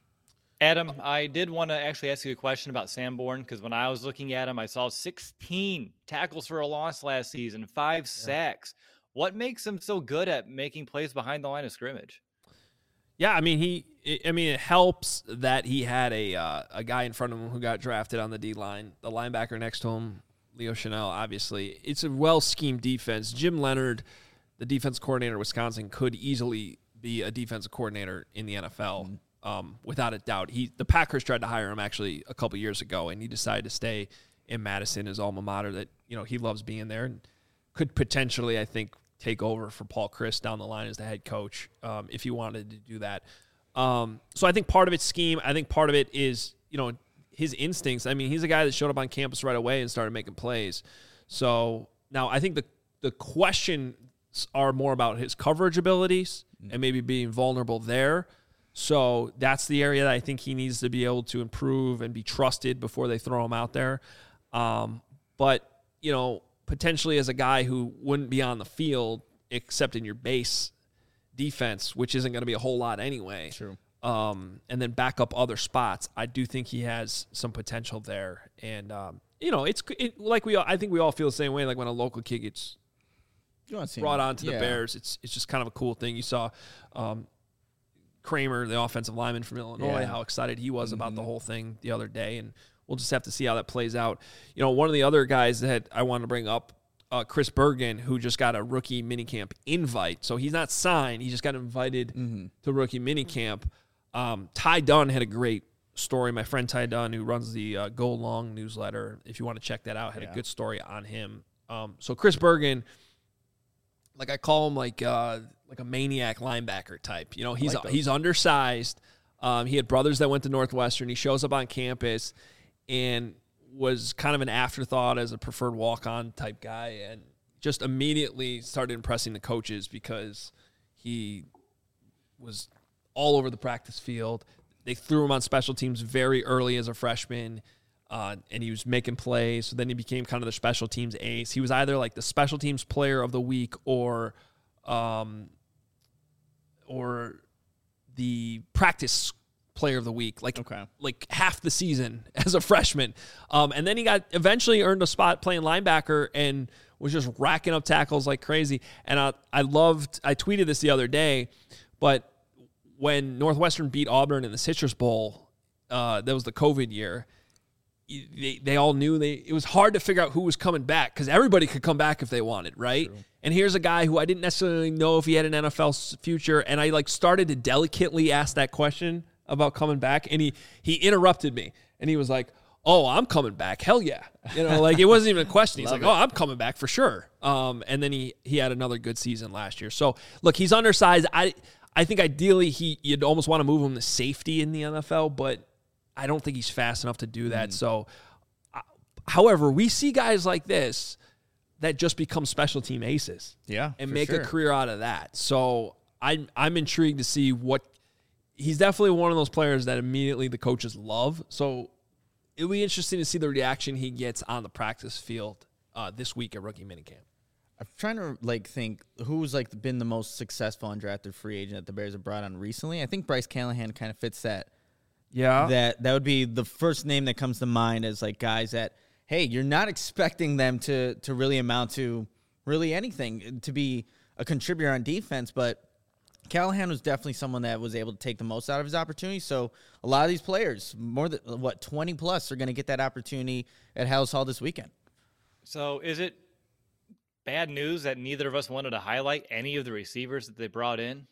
Adam, I did want to actually ask you a question about Sanborn because when I was looking at him, I saw sixteen tackles for a loss last season, five sacks. What makes him so good at making plays behind the line of scrimmage? Yeah, I mean he. I mean it helps that he had a uh, a guy in front of him who got drafted on the D line, the linebacker next to him, Leo Chanel. Obviously, it's a well schemed defense. Jim Leonard, the defense coordinator of Wisconsin, could easily be a defensive coordinator in the N F L, mm-hmm. um, without a doubt. He the Packers tried to hire him actually a couple years ago, and he decided to stay in Madison, his alma mater. That you know he loves being there and could potentially, I think, take over for Paul Chryst down the line as the head coach um, if he wanted to do that. Um, so I think part of it's scheme. I think part of it is, you know, his instincts. I mean, he's a guy that showed up on campus right away and started making plays. So now I think the, the questions are more about his coverage abilities and maybe being vulnerable there. So that's the area that I think he needs to be able to improve and be trusted before they throw him out there. Um, but, you know, potentially as a guy who wouldn't be on the field except in your base defense, which isn't going to be a whole lot anyway. True. Um, and then back up other spots. I do think he has some potential there. And um, you know, it's it, like we all, I think we all feel the same way. Like when a local kid gets You want to see brought him. on to the Yeah. Bears, it's it's just kind of a cool thing. You saw um, Kramer, the offensive lineman from Illinois, Yeah. how excited he was Mm-hmm. about the whole thing the other day, and we'll just have to see how that plays out. You know, one of the other guys that I wanted to bring up, uh, Chris Bergen, who just got a rookie minicamp invite. So he's not signed; he just got invited Mm-hmm. to rookie minicamp. Um, Ty Dunn had a great story. My friend Ty Dunn, who runs the uh, Go Long newsletter, if you want to check that out, had Yeah. a good story on him. Um, so Chris Bergen, like I call him like uh, like a maniac linebacker type. You know, he's like those. he's undersized. Um, he had brothers that went to Northwestern. He shows up on campus and was kind of an afterthought as a preferred walk-on type guy, and just immediately started impressing the coaches because he was all over the practice field. They threw him on special teams very early as a freshman, uh, and he was making plays. So then he became kind of the special teams ace. He was either like the special teams player of the week or um, or the practice player of the week, like Okay. like half the season as a freshman. Um, and then he got eventually earned a spot playing linebacker and was just racking up tackles like crazy. And I, I loved, I tweeted this the other day, but when Northwestern beat Auburn in the Citrus Bowl, uh, that was the COVID year, they, they all knew they it was hard to figure out who was coming back because everybody could come back if they wanted, right? True. And here's a guy who I didn't necessarily know if he had an N F L future, and I like started to delicately ask that question about coming back, and he he interrupted me, and he was like, "Oh, I'm coming back, hell yeah!" You know, like it wasn't even a question. He's like, it. "Oh, I'm coming back for sure." Um, and then he he had another good season last year. So look, he's undersized. I I think ideally he you'd almost want to move him to safety in the N F L, but I don't think he's fast enough to do that. Mm. So, uh, however, we see guys like this that just become special team aces, Yeah, and for make sure. a career out of that. So I'm I'm intrigued to see what he's definitely one of those players that immediately the coaches love. So it'll be interesting to see the reaction he gets on the practice field uh, this week at rookie minicamp. I'm trying to like think who's like been the most successful undrafted free agent that the Bears have brought on recently. I think Bryce Callahan kind of fits that. Yeah, That that would be the first name that comes to mind as like guys that, hey, you're not expecting them to to really amount to really anything, to be a contributor on defense, but Callahan was definitely someone that was able to take the most out of his opportunity. So a lot of these players, more than what twenty plus, are going to get that opportunity at Hallis Hall this weekend. So is it bad news that neither of us wanted to highlight any of the receivers that they brought in?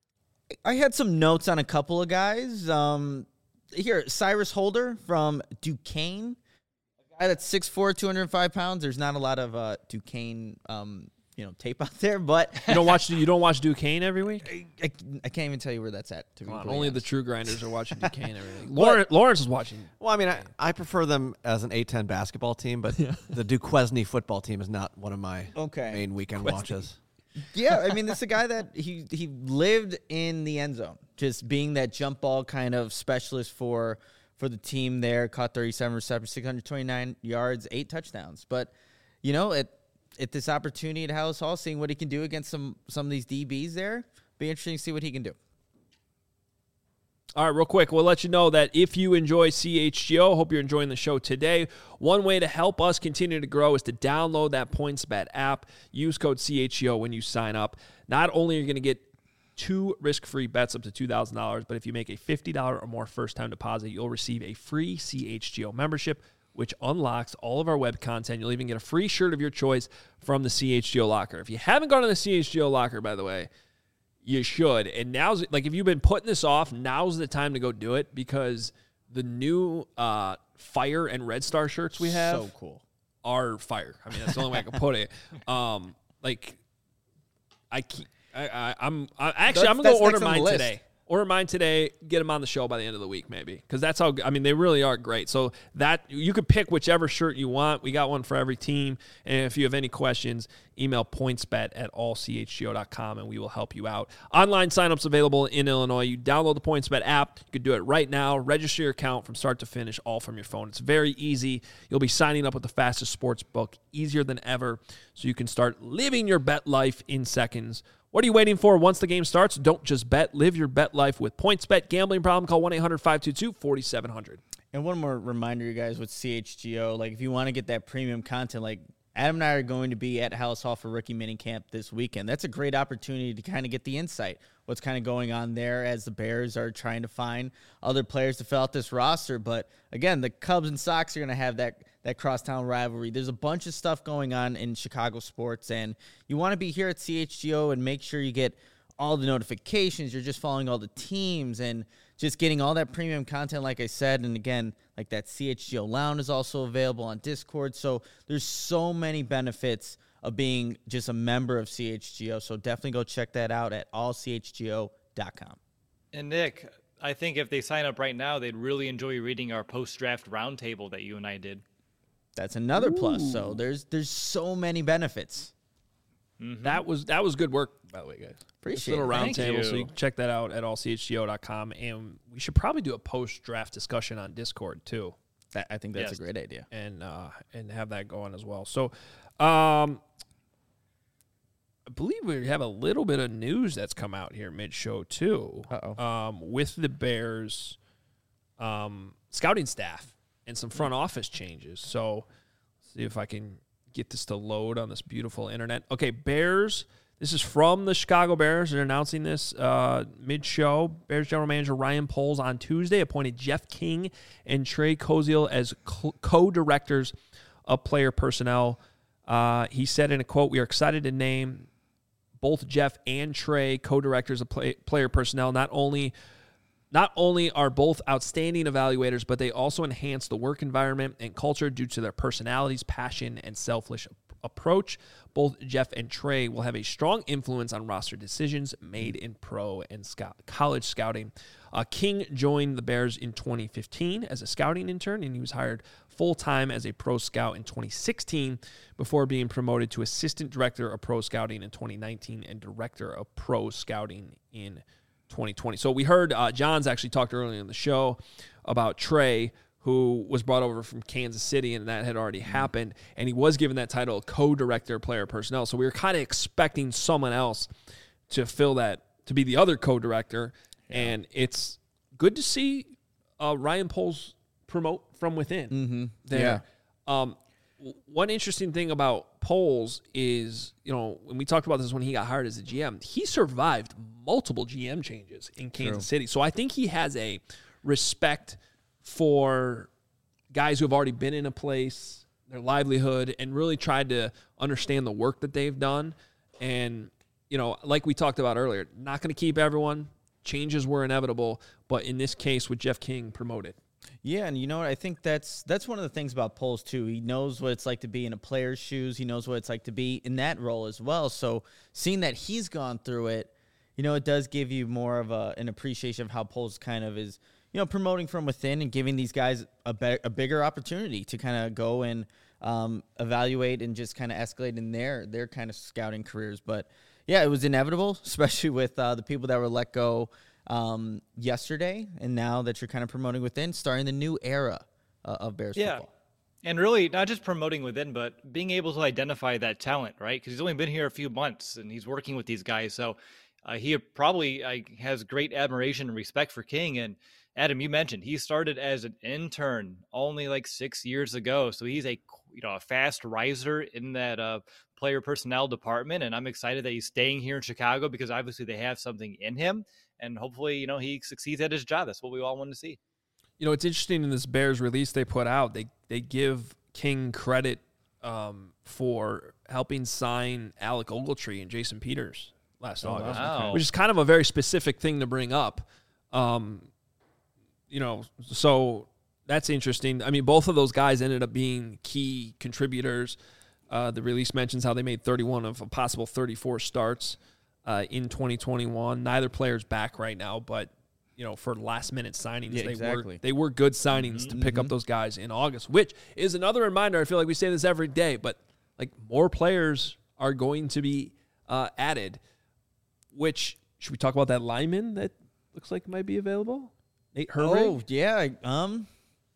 I had some notes on a couple of guys. Um, here, Cyrus Holder from Duquesne, a guy that's six foot four, two hundred five pounds. There's not a lot of uh, Duquesne, um, you know, tape out there, but you don't watch you don't watch Duquesne every week. I, I can't even tell you where that's at. To be Come on, completely only the honest. true grinders are watching Duquesne every week. Lawrence, Lawrence is watching. Well, I mean, I, I prefer them as an A ten basketball team, but the Duquesne football team is not one of my Okay. main weekend Duquesne. watches. Yeah, I mean, this is a guy that he he lived in the end zone, just being that jump ball kind of specialist for for the team there. Caught thirty-seven receptions, six hundred twenty-nine yards, eight touchdowns. But you know, at at this opportunity at Hallis Hall, seeing what he can do against some some of these D Bs there, be interesting to see what he can do. All right, real quick, we'll let you know that if you enjoy C H G O, hope you're enjoying the show today. One way to help us continue to grow is to download that PointsBet app. Use code C H G O when you sign up. Not only are you going to get two risk-free bets up to two thousand dollars, but if you make a fifty dollars or more first-time deposit, you'll receive a free C H G O membership, which unlocks all of our web content. You'll even get a free shirt of your choice from the C H G O Locker. If you haven't gone to the C H G O Locker, by the way, you should. And now's, like, if you've been putting this off, now's the time to go do it because the new uh, Fire and Red Star shirts we have So cool. are fire. I mean, that's the only way I can put it. Um, like, I keep, I, I, I'm I, actually That's- I'm gonna that's go order next on the mine list. today. Order mine today. Get them on the show by the end of the week, maybe, because that's how. I mean, they really are great. So that you could pick whichever shirt you want. We got one for every team. And if you have any questions, email pointsbet at all c h g o dot com and we will help you out. Online signups available in Illinois. You download the PointsBet app. You can do it right now. Register your account from start to finish, all from your phone. It's very easy. You'll be signing up with the fastest sports book, easier than ever, so you can start living your bet life in seconds. What are you waiting for? Once the game starts, don't just bet. Live your bet life with PointsBet. Gambling problem? Call one eight hundred five two two four seven zero zero. And one more reminder, you guys, with C H G O, like if you want to get that premium content, like Adam and I are going to be at Hallis Hall for rookie minicamp this weekend. That's a great opportunity to kind of get the insight, what's kind of going on there as the Bears are trying to find other players to fill out this roster. But again, the Cubs and Sox are going to have that that crosstown rivalry. There's a bunch of stuff going on in Chicago sports, and you want to be here at C H G O and make sure you get all the notifications. You're just following all the teams and just getting all that premium content, like I said. And again, like that C H G O Lounge is also available on Discord. So there's so many benefits of being just a member of C H G O. So definitely go check that out at all c h g o dot com. And Nick, I think if they sign up right now, they'd really enjoy reading our post-draft roundtable that you and I did. That's another plus. So there's there's so many benefits. Mm-hmm. That was that was good work, by the way, guys. Appreciate little it. round Thank table, you. so you can check that out at all c h g o dot com. And we should probably do a post-draft discussion on Discord, too. That, I think that's Yes. a great idea. and uh, and have that going as well. So, um, I believe we have a little bit of news that's come out here mid-show too, Uh-oh. um, with the Bears um, scouting staff and some front office changes. So, let's see if I can get this to load on this beautiful internet. Okay, Bears. This is from the Chicago Bears. They're announcing this uh, mid-show. Bears general manager Ryan Poles on Tuesday appointed Jeff King and Trey Koziel as co-directors of player personnel. Uh, he said in a quote, "We are excited to name both Jeff and Trey co-directors of play, player personnel. Not only Not only are both outstanding evaluators, but they also enhance the work environment and culture due to their personalities, passion, and selfless approach. Both Jeff and Trey will have a strong influence on roster decisions made in pro and scout, college scouting." Uh, King joined the Bears in twenty fifteen as a scouting intern, and he was hired full-time as a pro scout in twenty sixteen before being promoted to assistant director of pro scouting in twenty nineteen and director of pro scouting in twenty twenty. So we heard uh, John's actually talked earlier in the show about Trey, who was brought over from Kansas City, and that had already happened, and he was given that title, co-director of player personnel. So we were kind of expecting someone else to fill that, to be the other co-director, yeah. And it's good to see uh, Ryan Poles promote from within Mm-hmm. there. Yeah. Um, one interesting thing about Poles is, you know, when we talked about this when he got hired as a G M, he survived multiple G M changes in Kansas True. City. So I think he has a respect for guys who have already been in a place, their livelihood, and really tried to understand the work that they've done. And, you know, like we talked about earlier, not going to keep everyone. Changes were inevitable, but in this case with Jeff King promoted. Yeah, and you know what? I think that's that's one of the things about Poles, too. He knows what it's like to be in a player's shoes. He knows what it's like to be in that role as well. So seeing that he's gone through it, you know, it does give you more of a, an appreciation of how Poles kind of is, you know, promoting from within and giving these guys a, be- a bigger opportunity to kind of go and um, evaluate and just kind of escalate in their, their kind of scouting careers. But, yeah, it was inevitable, especially with uh, the people that were let go um, yesterday, and now that you're kind of promoting within, starting the new era uh, of Bears Yeah. football. And really, not just promoting within, but being able to identify that talent, right? Because he's only been here a few months, and he's working with these guys. So uh, he probably uh, has great admiration and respect for King. And Adam, you mentioned he started as an intern only like six years ago. So he's a you know a fast riser in that uh, player personnel department. And I'm excited that he's staying here in Chicago because obviously they have something in him. And hopefully, you know, he succeeds at his job. That's what we all want to see. You know, it's interesting in this Bears release they put out, they they give King credit um, for helping sign Alec Ogletree and Jason Peters last Oh, August, wow. which is kind of a very specific thing to bring up. Um, you know, so that's interesting. I mean, both of those guys ended up being key contributors. Uh, the release mentions how they made thirty-one of a possible thirty-four starts uh, in twenty twenty-one. Neither player's back right now, but you know, for last minute signings, Yeah, they exactly. were they were good signings to pick up those guys in August, which is another reminder. I feel like we say this every day, but like more players are going to be uh, added. Which should we talk about that lineman that looks like might be available? Nate Herbert. Oh, yeah. Um,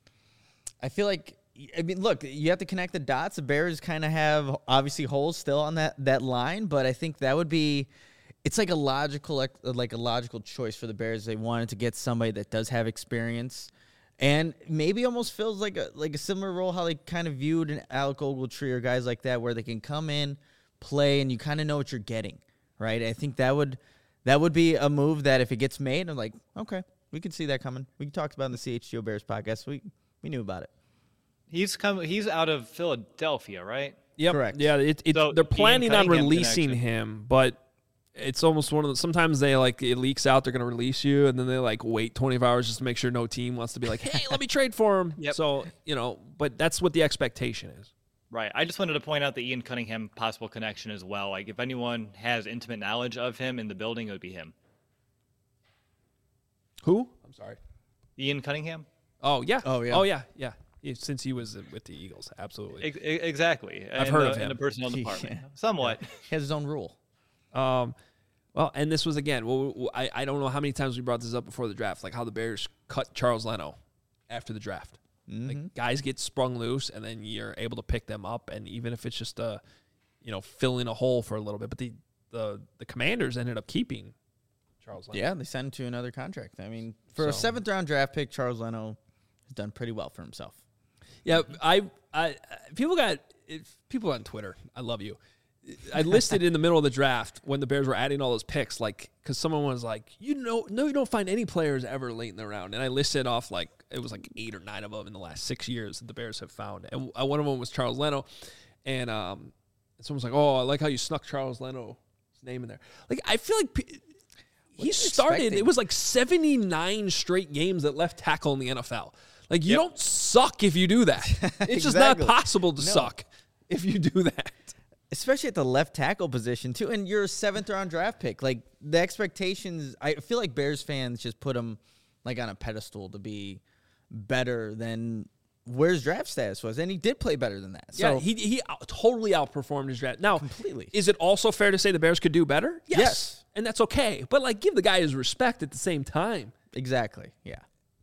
I feel like, I mean, look, you have to connect the dots. The Bears kind of have obviously holes still on that, that line, but I think that would be, it's like a logical, like, like a logical choice for the Bears. They wanted to get somebody that does have experience And maybe almost feels like a like a similar role how they kind of viewed an Alec Ogletree or guys like that, where they can come in, play, and you kind of know what you're getting, right? I think that would that would be a move that if it gets made, I'm like, okay, we can see that coming. We talked about in the C H G O Bears podcast. We we knew about it. He's come. He's out of Philadelphia, right? Yep. Correct. Yeah, it, it, So they're planning on Cunningham releasing connection. him, but it's almost one of the. Sometimes they like it leaks out they're going to release you, and then they like wait twenty-four hours just to make sure no team wants to be like, hey, let me trade for him. Yep. So you know, but that's what the expectation is. Right. I just wanted to point out the Ian Cunningham possible connection as well. Like, if anyone has intimate knowledge of him in the building, it would be him. Who? I'm sorry. Ian Cunningham. Oh yeah. Oh, yeah. Oh yeah. Yeah. Yeah, since he was with the Eagles, absolutely. Ex- exactly. I've in heard the, of him. in the personnel Yeah. department. Somewhat. He has his own rule. Um, well, and this was again. Well, I I don't know how many times we brought this up before the draft, like how the Bears cut Charles Leno after the draft. Mm-hmm. Like guys get sprung loose, and then you're able to pick them up, and even if it's just a, you know, filling a hole for a little bit. But the the the Commanders ended up keeping Charles Leno. Yeah, they sent him to another contract. I mean, for a So- seventh round draft pick, Charles Leno has done pretty well for himself. Yeah, I, I, people got if people on Twitter. I love you. I listed in the middle of the draft when the Bears were adding all those picks, like because someone was like, you know, no, you don't find any players ever late in the round, and I listed off like it was like eight or nine of them in the last six years that the Bears have found, and one of them was Charles Leno, and um, someone was like, oh, I like how you snuck Charles Leno's name in there. Like I feel like. P- He you started. expecting? It was like seventy-nine straight games at left tackle in the N F L. Like you Yep. don't suck if you do that. It's just not Exactly. possible to No. suck if you do that. Especially at the left tackle position, too. And you're a seventh round draft pick. Like, the expectations, I feel like Bears fans just put him, like, on a pedestal to be better than where his draft status was. And he did play better than that. So, Yeah, he he out- totally outperformed his draft. Now, Completely. is it also fair to say the Bears could do better? Yes, Yes. and that's okay. But like, give the guy his respect at the same time. exactly. Yeah.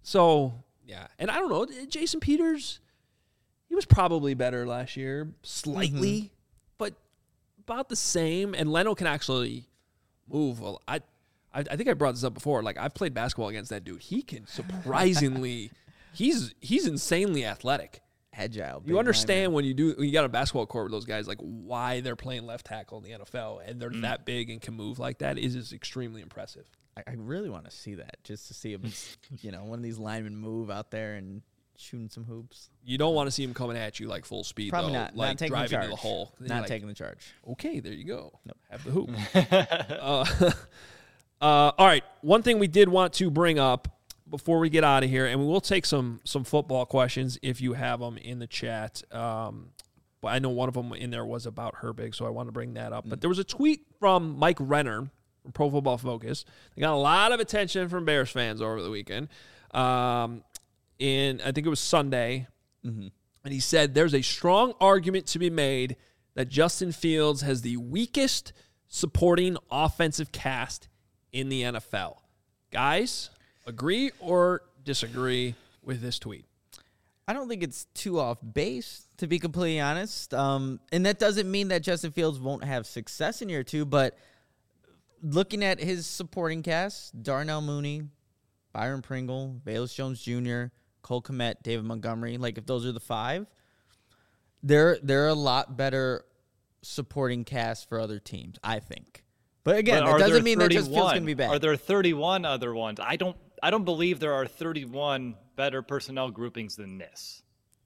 So yeah, and I don't know, Jason Peters, he was probably better last year, slightly, Mm-hmm. but about the same. And Leno can actually move. Well, I, I, I think I brought this up before. Like I've played basketball against that dude. He can surprisingly, he's he's insanely athletic. Agile. big You understand lineman. when you do when you got a basketball court with those guys, like why they're playing left tackle in the N F L and Mm. they're that big and can move like that is is extremely impressive. I, I really want to see that, just to see him, you know, one of these linemen move out there and shooting some hoops. You don't want to see him coming at you like full speed, Probably though, not. like not taking driving the charge. to the hole. Then you're Not like, taking the charge. okay, there you go. Have the hoop. uh, uh, all right. One thing we did want to bring up before we get out of here, and we will take some some football questions if you have them in the chat. Um, but I know one of them in there was about Herbig, so I want to bring that up. But there was a tweet from Mike Renner from Pro Football Focus. They got a lot of attention from Bears fans over the weekend. Um, in I think it was Sunday. Mm-hmm. And he said there's a strong argument to be made that Justin Fields has the weakest supporting offensive cast in the N F L. Guys, agree or disagree with this tweet? I don't think it's too off base, to be completely honest. Um, and that doesn't mean that Justin Fields won't have success in year two, but looking at his supporting cast, Darnell Mooney, Byron Pringle, Bayless Jones Junior, Cole Kmet, David Montgomery, like if those are the five, they're, they're a lot better supporting cast for other teams, I think. But again, But that are doesn't there mean that Justin Fields thirty-one? going to be bad. Are there thirty-one other ones? I don't. I don't believe there are thirty-one better personnel groupings than this.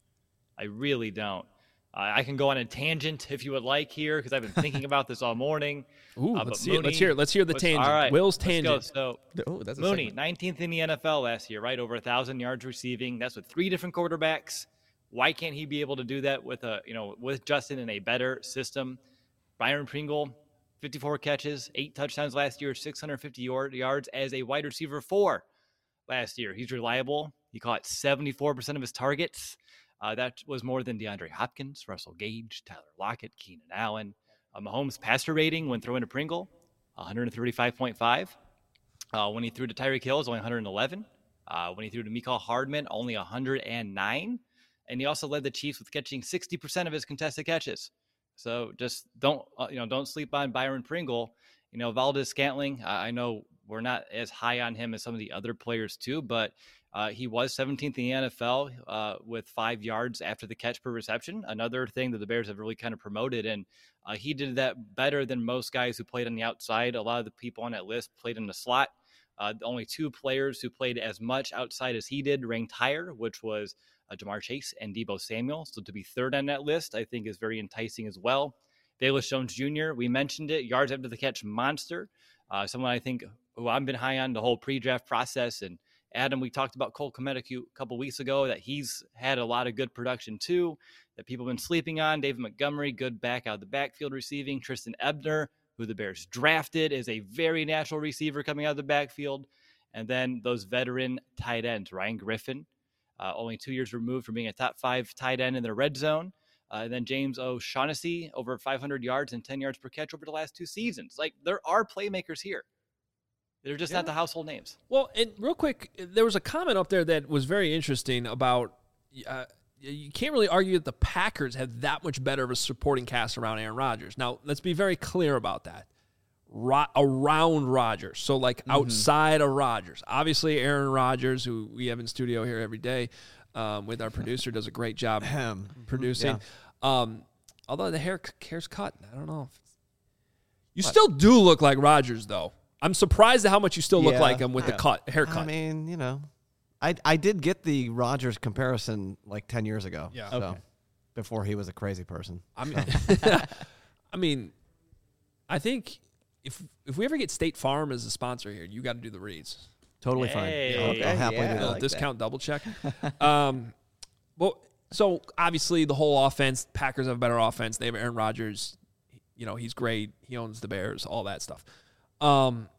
I really don't. Uh, I can go on a tangent if you would like here because I've been thinking about this all morning. Ooh, Uh, let's but see it. Let's Mooney hear it. Let's hear the was- tangent. All right, Will's let's go. tangent. So oh, that's a Mooney, segment. nineteenth in the N F L last year, right? Over a thousand yards receiving. That's with three different quarterbacks. Why can't he be able to do that with a you know with Justin in a better system? Byron Pringle, fifty-four catches, eight touchdowns last year, six hundred fifty yard, yards as a wide receiver four last year. He's reliable. He caught seventy-four percent of his targets. Uh, that was more than DeAndre Hopkins, Russell Gage, Tyler Lockett, Keenan Allen. Uh, Mahomes' passer rating when throwing to Pringle, one thirty-five point five. Uh, when he threw to Tyreek Hill, it was only one eleven. Uh, when he threw to Mecole Hardman, only one hundred nine. And he also led the Chiefs with catching sixty percent of his contested catches. So just don't, uh, you know, don't sleep on Byron Pringle. You know, Valdez Scantling, I, I know we're not as high on him as some of the other players too, but Uh, he was seventeenth in the N F L uh, with five yards after the catch per reception. Another thing that the Bears have really kind of promoted. And uh, he did that better than most guys who played on the outside. A lot of the people on that list played in the slot. Uh, the only two players who played as much outside as he did ranked higher, which was uh, Jamar Chase and Deebo Samuel. So to be third on that list, I think is very enticing as well. Velus Jones Junior, we mentioned it, yards after the catch monster. Uh, someone I think who I've been high on the whole pre-draft process. And Adam, we talked about Cole Kmet a couple weeks ago, that he's had a lot of good production too, that people have been sleeping on. David Montgomery, good back out of the backfield receiving. Tristan Ebner, who the Bears drafted, is a very natural receiver coming out of the backfield. And then those veteran tight ends, Ryan Griffin, uh, only two years removed from being a top five tight end in the red zone. Uh, and then James O'Shaughnessy, over five hundred yards and ten yards per catch over the last two seasons. Like, there are playmakers here. They're just yeah. not the household names. Well, and real quick, there was a comment up there that was very interesting about uh, you can't really argue that the Packers have that much better of a supporting cast around Aaron Rodgers. Now, let's be very clear about that. Ro- around Rodgers, so like mm-hmm. outside of Rodgers. Obviously, Aaron Rodgers, who we have in studio here every day um, with our producer, does a great job producing. Yeah. Um, although the hair hair's cut, I don't know. If you what? Still do look like Rodgers, though. I'm surprised at how much you still look yeah. like him with yeah. the cut haircut. I mean, you know, I I did get the Rodgers comparison like ten years ago. Yeah, so, okay. Before he was a crazy person. I mean, I mean, I think. If if we ever get State Farm as a sponsor here, you got to do the reads. Totally hey. fine. I'll, okay. I'll happily yeah, do that. Like discount that. Double check. um, well, so obviously the whole offense, Packers have a better offense. They have Aaron Rodgers. You know, he's great. He owns the Bears, all that stuff. Um,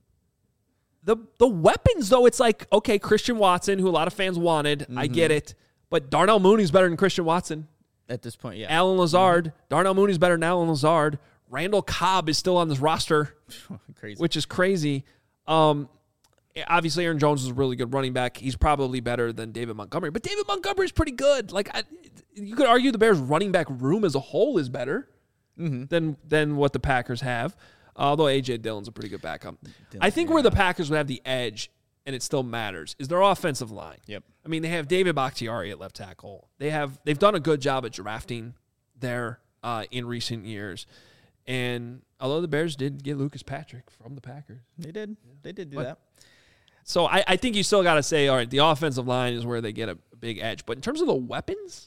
the the weapons, though, it's like, okay, Christian Watson, who a lot of fans wanted. Mm-hmm. I get it. But Darnell Mooney's better than Christian Watson. At this point, yeah. Alan Lazard. Mm-hmm. Darnell Mooney's better than Alan Lazard. Randall Cobb is still on this roster, crazy. Which is crazy. Um, obviously, Aaron Jones is a really good running back. He's probably better than David Montgomery, but David Montgomery is pretty good. Like I, you could argue the Bears' running back room as a whole is better mm-hmm. than than what the Packers have. Although A J Dillon's a pretty good backup. Dillon, I think yeah. where the Packers would have the edge, and it still matters, is their offensive line. Yep. I mean, they have David Bakhtiari at left tackle. They have they've done a good job at drafting there uh, in recent years. And although the Bears did get Lucas Patrick from the Packers. They did. Yeah. They did do but, that. So I, I think you still got to say, all right, the offensive line is where they get a big edge. But in terms of the weapons,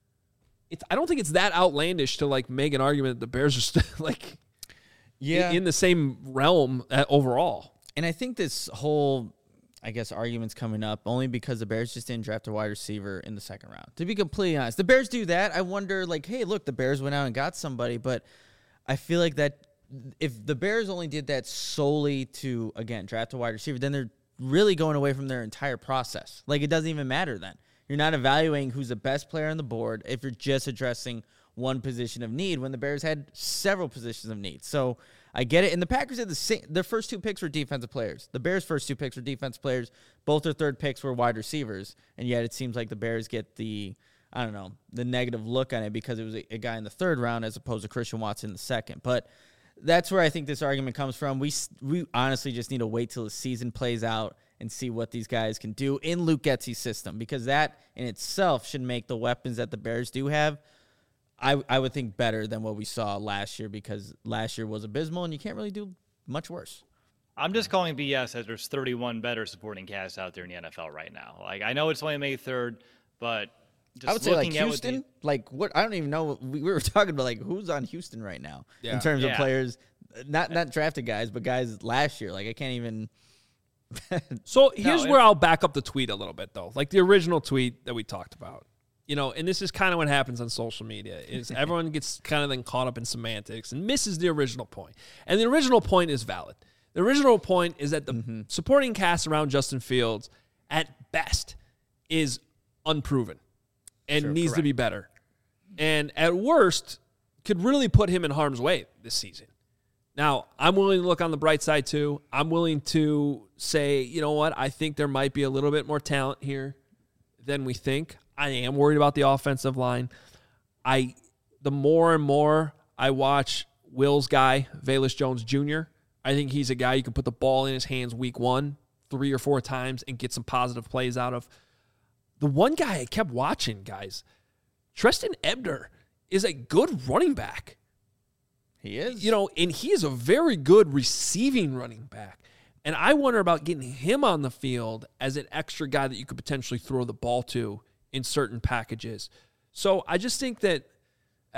it's I don't think it's that outlandish to, like, make an argument that the Bears are still, like, yeah. in, in the same realm overall. And I think this whole, I guess, argument's coming up only because the Bears just didn't draft a wide receiver in the second round. To be completely honest, the Bears do that. I wonder, like, hey, look, the Bears went out and got somebody, but I feel like that if the Bears only did that solely to, again, draft a wide receiver, then they're really going away from their entire process. Like, it doesn't even matter then. You're not evaluating who's the best player on the board if you're just addressing one position of need when the Bears had several positions of need. So I get it. And the Packers had the same, their first two picks were defensive players. The Bears' first two picks were defensive players. Both their third picks were wide receivers. And yet it seems like the Bears get the, I don't know, the negative look on it because it was a, a guy in the third round as opposed to Christian Watson in the second. But that's where I think this argument comes from. We we honestly just need to wait till the season plays out and see what these guys can do in Luke Getsy's system, because that in itself should make the weapons that the Bears do have, I, I would think, better than what we saw last year, because last year was abysmal and you can't really do much worse. I'm just calling B S as there's thirty-one better supporting casts out there in the N F L right now. Like, I know it's only May third, but just I would say, like, at Houston, the, like, what, I don't even know. We, we were talking about, like, who's on Houston right now yeah. in terms yeah. of players, not not drafted guys, but guys last year. Like, I can't even. So here's no, where it, I'll back up the tweet a little bit, though. Like the original tweet that we talked about. You know, and this is kind of what happens on social media, is everyone gets kind of then caught up in semantics and misses the original point. And the original point is valid. The original point is that the mm-hmm. supporting cast around Justin Fields, at best, is unproven and sure, needs correct. to be better. And at worst, could really put him in harm's way this season. Now, I'm willing to look on the bright side, too. I'm willing to say, you know what, I think there might be a little bit more talent here than we think. I am worried about the offensive line. I, the more and more I watch Will's guy, Velus Jones Junior, I think he's a guy you can put the ball in his hands week one, three or four times and get some positive plays out of. The one guy I kept watching, guys, Trestan Ebner is a good running back. He is. You know, and he is a very good receiving running back. And I wonder about getting him on the field as an extra guy that you could potentially throw the ball to in certain packages. So I just think that uh,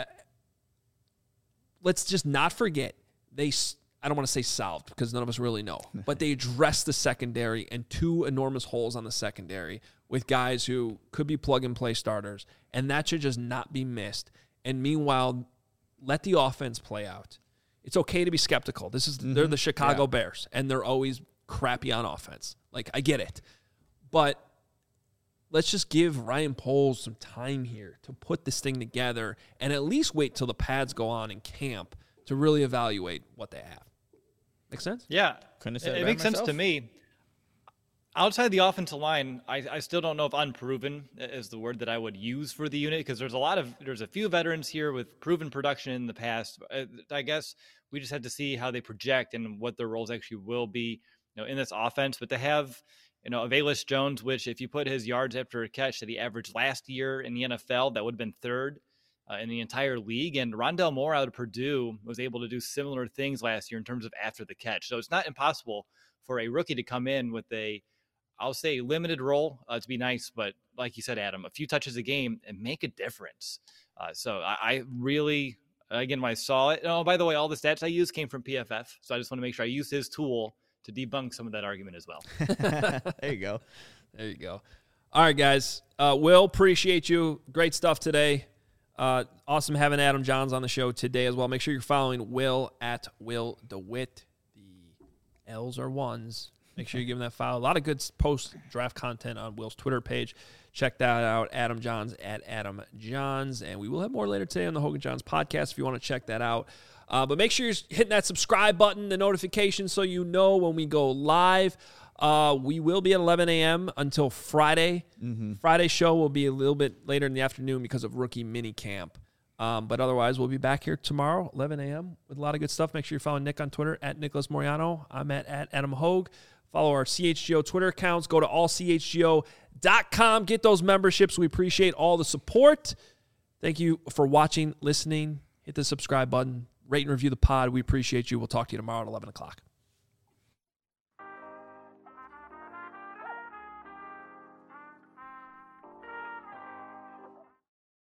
let's just not forget they I don't want to say solved because none of us really know, but they addressed the secondary and two enormous holes on the secondary with guys who could be plug-and-play starters, and that should just not be missed. And meanwhile, let the offense play out. It's okay to be skeptical. This is mm-hmm. They're the Chicago yeah. Bears, and they're always crappy on offense. Like, I get it. But let's just give Ryan Poles some time here to put this thing together and at least wait till the pads go on in camp to really evaluate what they have. Make sense? Yeah. Couldn't have said it, it it makes myself. sense to me. Outside the offensive line, I, I still don't know if unproven is the word that I would use for the unit because there's a lot of there's a few veterans here with proven production in the past. I guess we just had to see how they project and what their roles actually will be, you know, in this offense. But to have, you know, Velus Jones, which if you put his yards after a catch that he averaged last year in the N F L, that would have been third uh, in the entire league. And Rondale Moore out of Purdue was able to do similar things last year in terms of after the catch. So it's not impossible for a rookie to come in with a I'll say limited role uh, to be nice, but like you said, Adam, a few touches a game and make a difference. Uh, so I, I really, again, when I saw it, oh, by the way, all the stats I used came from P F F. So I just want to make sure I use his tool to debunk some of that argument as well. There you go. There you go. All right, guys. Uh, Will, appreciate you. Great stuff today. Uh, awesome having Adam Johns on the show today as well. Make sure you're following Will at Will DeWitt. The L's are ones. Make sure you give him that follow. A lot of good post-draft content on Will's Twitter page. Check that out, Adam Johns at Adam Johns. And we will have more later today on the Hogan Johns podcast if you want to check that out. Uh, but make sure you're hitting that subscribe button, the notification, so you know when we go live. Uh, we will be at eleven a.m. until Friday. Mm-hmm. Friday's show will be a little bit later in the afternoon because of rookie mini camp. Um, but otherwise, we'll be back here tomorrow, eleven a.m. with a lot of good stuff. Make sure you follow Nick on Twitter, at Nicholas Moriano. I'm at, at Adam Hogue. Follow our C H G O Twitter accounts. Go to all c h g o dot com. Get those memberships. We appreciate all the support. Thank you for watching, listening. Hit the subscribe button. Rate and review the pod. We appreciate you. We'll talk to you tomorrow at eleven o'clock.